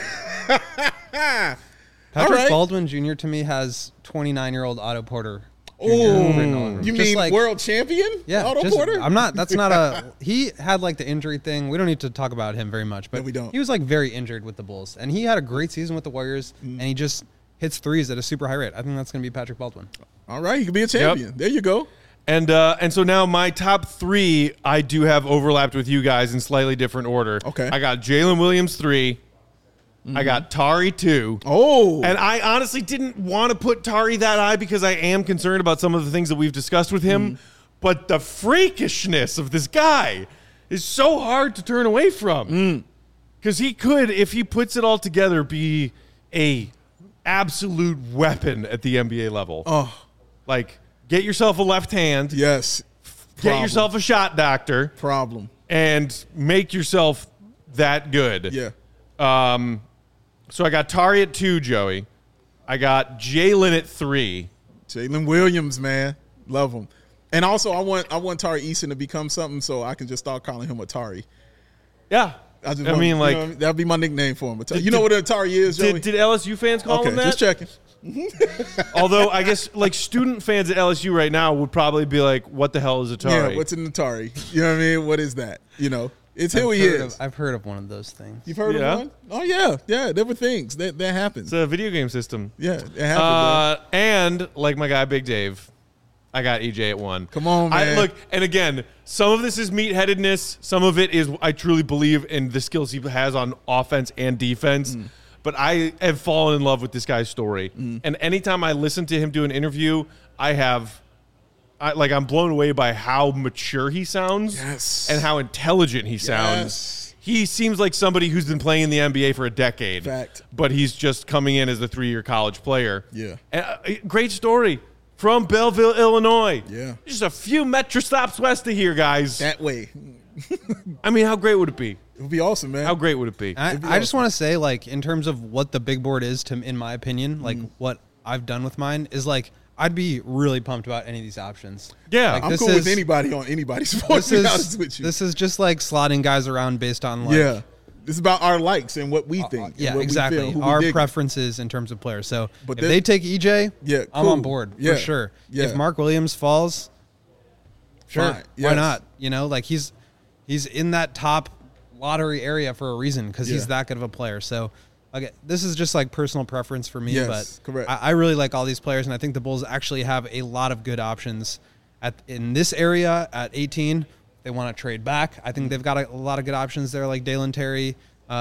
Patrick All right. Baldwin Jr. to me has 29-year-old Otto Porter Oh, you Just mean like- world champion? Yeah, Otto just- Porter. I'm not. That's not a. He had like the injury thing. We don't need to talk about him very much, but No, we don't. he was like very injured with the Bulls, and he had a great season with the Warriors, and he just hits threes at a super high rate. I think that's going to be Patrick Baldwin. All right, you can be a champion. There you go. And so now my top 3, I do have overlapped with you guys in slightly different order. Okay. I got Jalen Williams 3. I got Tari 2. Oh, And I honestly didn't want to put Tari that high because I am concerned about some of the things that we've discussed with him. But the freakishness of this guy is so hard to turn away from. Because he could, if he puts it all together, be a absolute weapon at the NBA level. oh, Like, get yourself a left hand, yes. get yourself a shot doctor, Problem. and make yourself that good. Yeah. So I got Tari at 2, Joey. I got Jalen at 3. Jalen Williams, man, love him. And also, I want Tari Eason to become something, so I can just start calling him Atari. Yeah. I I mean, like, that'd be my nickname for him. You know what an Atari is, Joey? did LSU fans call Okay, him that? just checking. Although I guess like student fans at LSU right now would probably be like, "What the hell is Atari?" Yeah, what's an Atari? You know what I mean? What is that? You know, it's who he is. I've heard of one of those things. You've heard Yeah. of one? Oh yeah. There were things that happens. It's a video game system. Yeah, it happened. And like my guy Big Dave, I got EJ at 1. Come on, man. Look, and again, some of this is meatheadedness. Some of it is I truly believe in the skills he has on offense and defense. But I have fallen in love with this guy's story. And anytime I listen to him do an interview, I'm blown away by how mature he sounds. Yes. And how intelligent he sounds. Yes. He seems like somebody who's been playing in the NBA for a decade. Fact. But he's just coming in as a 3-year college player. Yeah. And, great story from Belleville, Illinois. Yeah. Just a few metro stops west of here, guys. That way. I mean, how great would it be? It would be awesome, man. How great would it be? I just want to say, like, in terms of what the big board is, in my opinion, like what I've done with mine is like I'd be really pumped about any of these options. Yeah. Like, I'm this cool with is- anybody on anybody's sport, to be honest with you. This is just like slotting guys around based on like yeah. This is about our likes and what we think. and yeah, what we exactly. feel, who we Our dig. preferences in terms of players. So But if this- they take EJ, Yeah, I'm cool. on board Yeah, for sure. yeah. If Mark Williams falls, sure, Fine, why yes. not? You know, like he's in that top lottery area for a reason because he's Yeah. that good of a player. So okay, this is just like personal preference for me, Yes, but correct. I really like all these players, and I think the Bulls actually have a lot of good options in this area at 18. They want to trade back. I think they've got a lot of good options there, like Dalen Terry,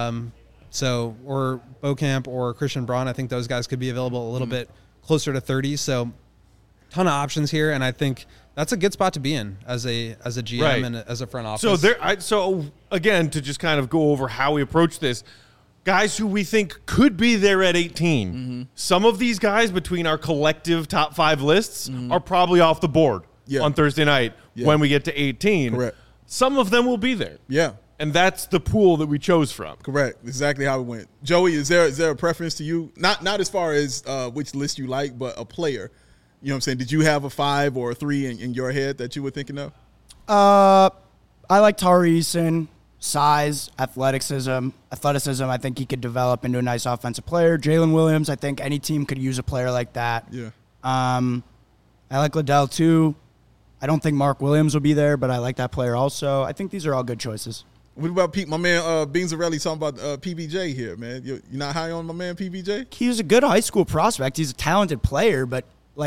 or Beaucamp or Christian Braun. I think those guys could be available a little bit closer to 30. So, ton of options here, and I think that's a good spot to be in as a GM Right. and as a front office. So again, to just kind of go over how we approach this, guys who we think could be there at 18. Some of these guys between our collective top 5 lists are probably off the board Yeah. on Thursday night Yeah. when we get to 18. Correct. Some of them will be there. Yeah. And that's the pool that we chose from. Correct. Exactly how it went. Joey, is there a preference to you? Not as far as which list you like, but a player. You know what I'm saying? Did you have a 5 or a 3 in your head that you were thinking of? I like Tari Eason. Size, athleticism. I think he could develop into a nice offensive player. Jalen Williams, I think any team could use a player like that. Yeah. I like Liddell too. I don't think Mark Williams will be there, but I like that player also. I think these are all good choices. What about Pete? My man Beansarelli talking about PBJ here, man. You're not high on my man PBJ? He's a good high school prospect. He's a talented player, but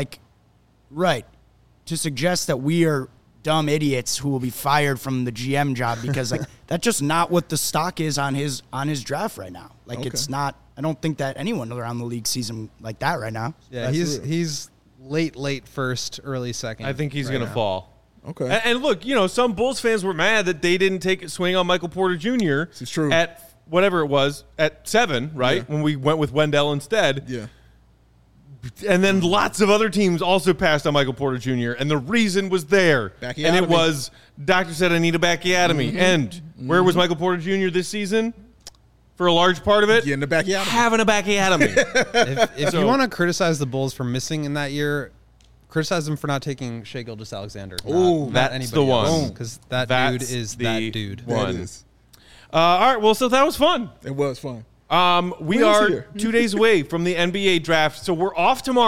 to suggest that we are dumb idiots who will be fired from the GM job because that's just not what the stock is on his draft right now. It's not. I don't think that anyone around the league sees him like that right now. yeah, he's late first, early second. I think he's right going to now. fall. Okay. And look, some Bulls fans were mad that they didn't take a swing on Michael Porter Jr. This is true. At whatever it was, at 7, right? Yeah. When we went with Wendell instead. Yeah. And then lots of other teams also passed on Michael Porter Jr. And the reason was there. Bacchiotomy. And it was, doctor said I need a bacchiotomy. And where was Michael Porter Jr. this season? For a large part of it? Get in the backyard. Having a bacchiotomy. If you want to criticize the Bulls for missing in that year, criticize them for not taking Shai Gilgeous-Alexander. Ooh, not that's anybody the one. else, because that dude That's is the that dude. one. That is. All right, well, so that was fun. It was fun. We Who's are here? 2 days away from the NBA draft, so we're off tomorrow.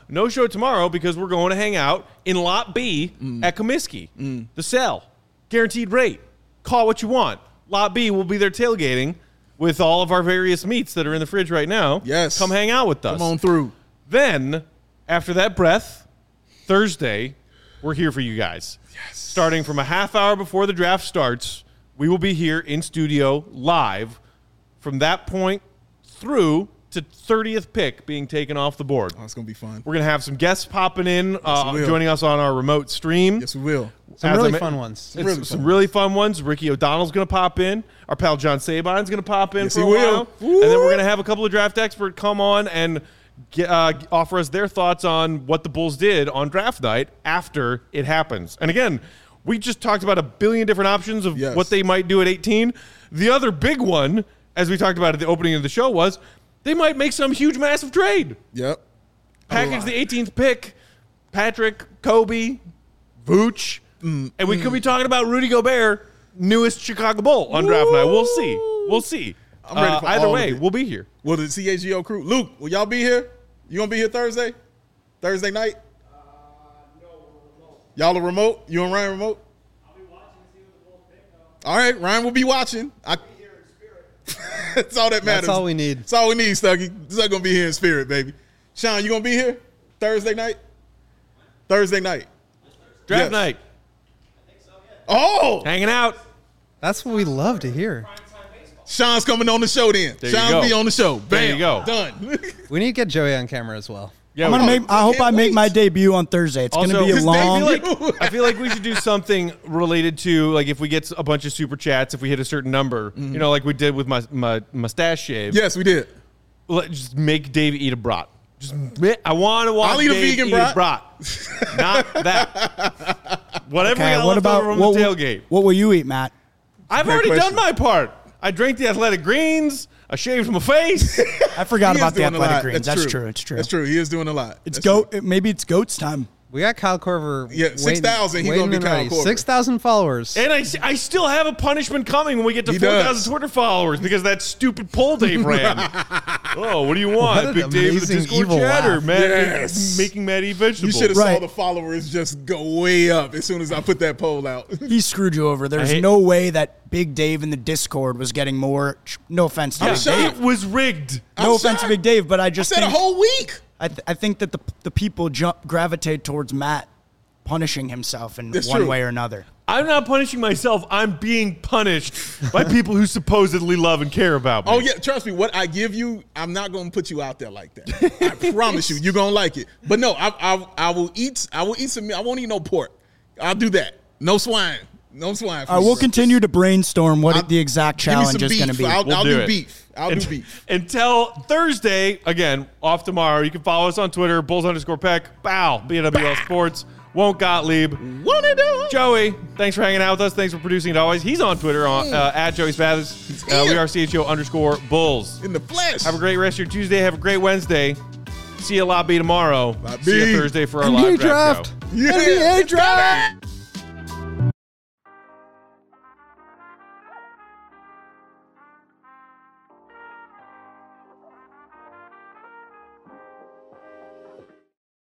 No show tomorrow because we're going to hang out in Lot B at Comiskey. The Cell. Guaranteed rate. Call what you want. Lot B will be there tailgating with all of our various meats that are in the fridge right now. Yes. Come hang out with us. Come on through. Then, after that breath, Thursday, we're here for you guys. Yes. Starting from a half hour before the draft starts, we will be here in studio live from that point through to 30th pick being taken off the board. Oh, it's going to be fun. We're going to have some guests popping in, we will. joining us on our remote stream. Yes, we will. Some As really I ma- fun ones. Some really fun ones. Ricky O'Donnell's going to pop in. Our pal John Sabine's going to pop in Yes, for a he will. while. And then we're going to have a couple of draft experts come on and offer us their thoughts on what the Bulls did on draft night after it happens. And again, we just talked about a billion different options of Yes. what they might do at 18. The other big one, as we talked about at the opening of the show, was they might make some huge, massive trade. Yep. Package the 18th pick, Patrick, Kobe, Vooch, and we could be talking about Rudy Gobert, newest Chicago Bull on draft night. We'll see. We'll see. I'm ready for either all way, of it. we'll be here. Will the CHGO crew? Luke, will y'all be here? You going to be here Thursday? Thursday night? No, we're remote. Y'all are remote? You and Ryan remote? I'll be watching to see what the Bulls pick. All right, Ryan will be watching. I'll be here in spirit. That's all that matters. That's all we need. That's all we need, Stuggy. This is going to be here in spirit, baby. Sean, you going to be here Thursday night? Thursday night. Draft Yes. night, Oh! hanging out. That's what we love to hear. Sean's coming on the show then. There you Sean go. be on the show. Bam. There you go. Done. We need to get Joey on camera as well. Yeah, I'm gonna we- make. I hope I can't make wait. my debut on Thursday. It's Also, gonna be a his long. debut- I feel like we should do something related to, like, if we get a bunch of super chats, if we hit a certain number, you know, like we did with my mustache shave. Yes, we did. Just make Dave eat a brat. I want to watch I'll eat a Dave vegan eat brat. a brat. Not that. Whatever we Okay, got what left about over from what? the tailgate. What will you eat, Matt? I've Great already question. done my part. I drank the athletic greens. I shaved my face. I forgot He about is the doing a athletic lot. greens. That's true. It's true. That's true. He is doing a lot. It's That's goat. true. Maybe it's goats time. We got Kyle Korver. Yeah, 6,000. He gonna be Kyle Korver. 6,000 followers. And I still have a punishment coming when we get to He 4,000 does. Twitter followers because that stupid poll Dave ran. Oh, what do you want? What an Big Dave in the amazing Discord evil chat or laugh. Matt Yes. making Matt eat You vegetables? should have saw Right. the followers just go way up as soon as I put that poll out. He screwed you over. There's hate- no way that Big Dave in the Discord was getting more. No offense to Yeah, Big shocked. Dave. it was rigged. I'm No offense to shocked. Big Dave, but I I just said a think whole week. I think that the people gravitate towards Matt punishing himself in That's one true. way or another. I'm not punishing myself. I'm being punished by people who supposedly love and care about me. Oh, yeah. Trust me. What I give you, I'm not going to put you out there like that. I promise you. You're going to like it. But no, I will eat. I will eat some meat. I won't eat no pork. I'll do that. No swine. No swine. All right, we'll continue to brainstorm what the exact challenge is going to be. I'll We'll do do it. beef. I'll do beef. Until Thursday, again, off tomorrow. You can follow us on Twitter, Bulls_Peck, Bow, BWL Sports, Won't Gottlieb. Won't it do? Joey, thanks for hanging out with us. Thanks for producing it always. He's on Twitter at Joey Spathis. We are CHO_Bulls. In the flesh. Have a great rest of your Tuesday. Have a great Wednesday. See you at Lot B tomorrow. Lot See you B. Thursday for our NBA live draft draft. show. Yeah. NBA draft.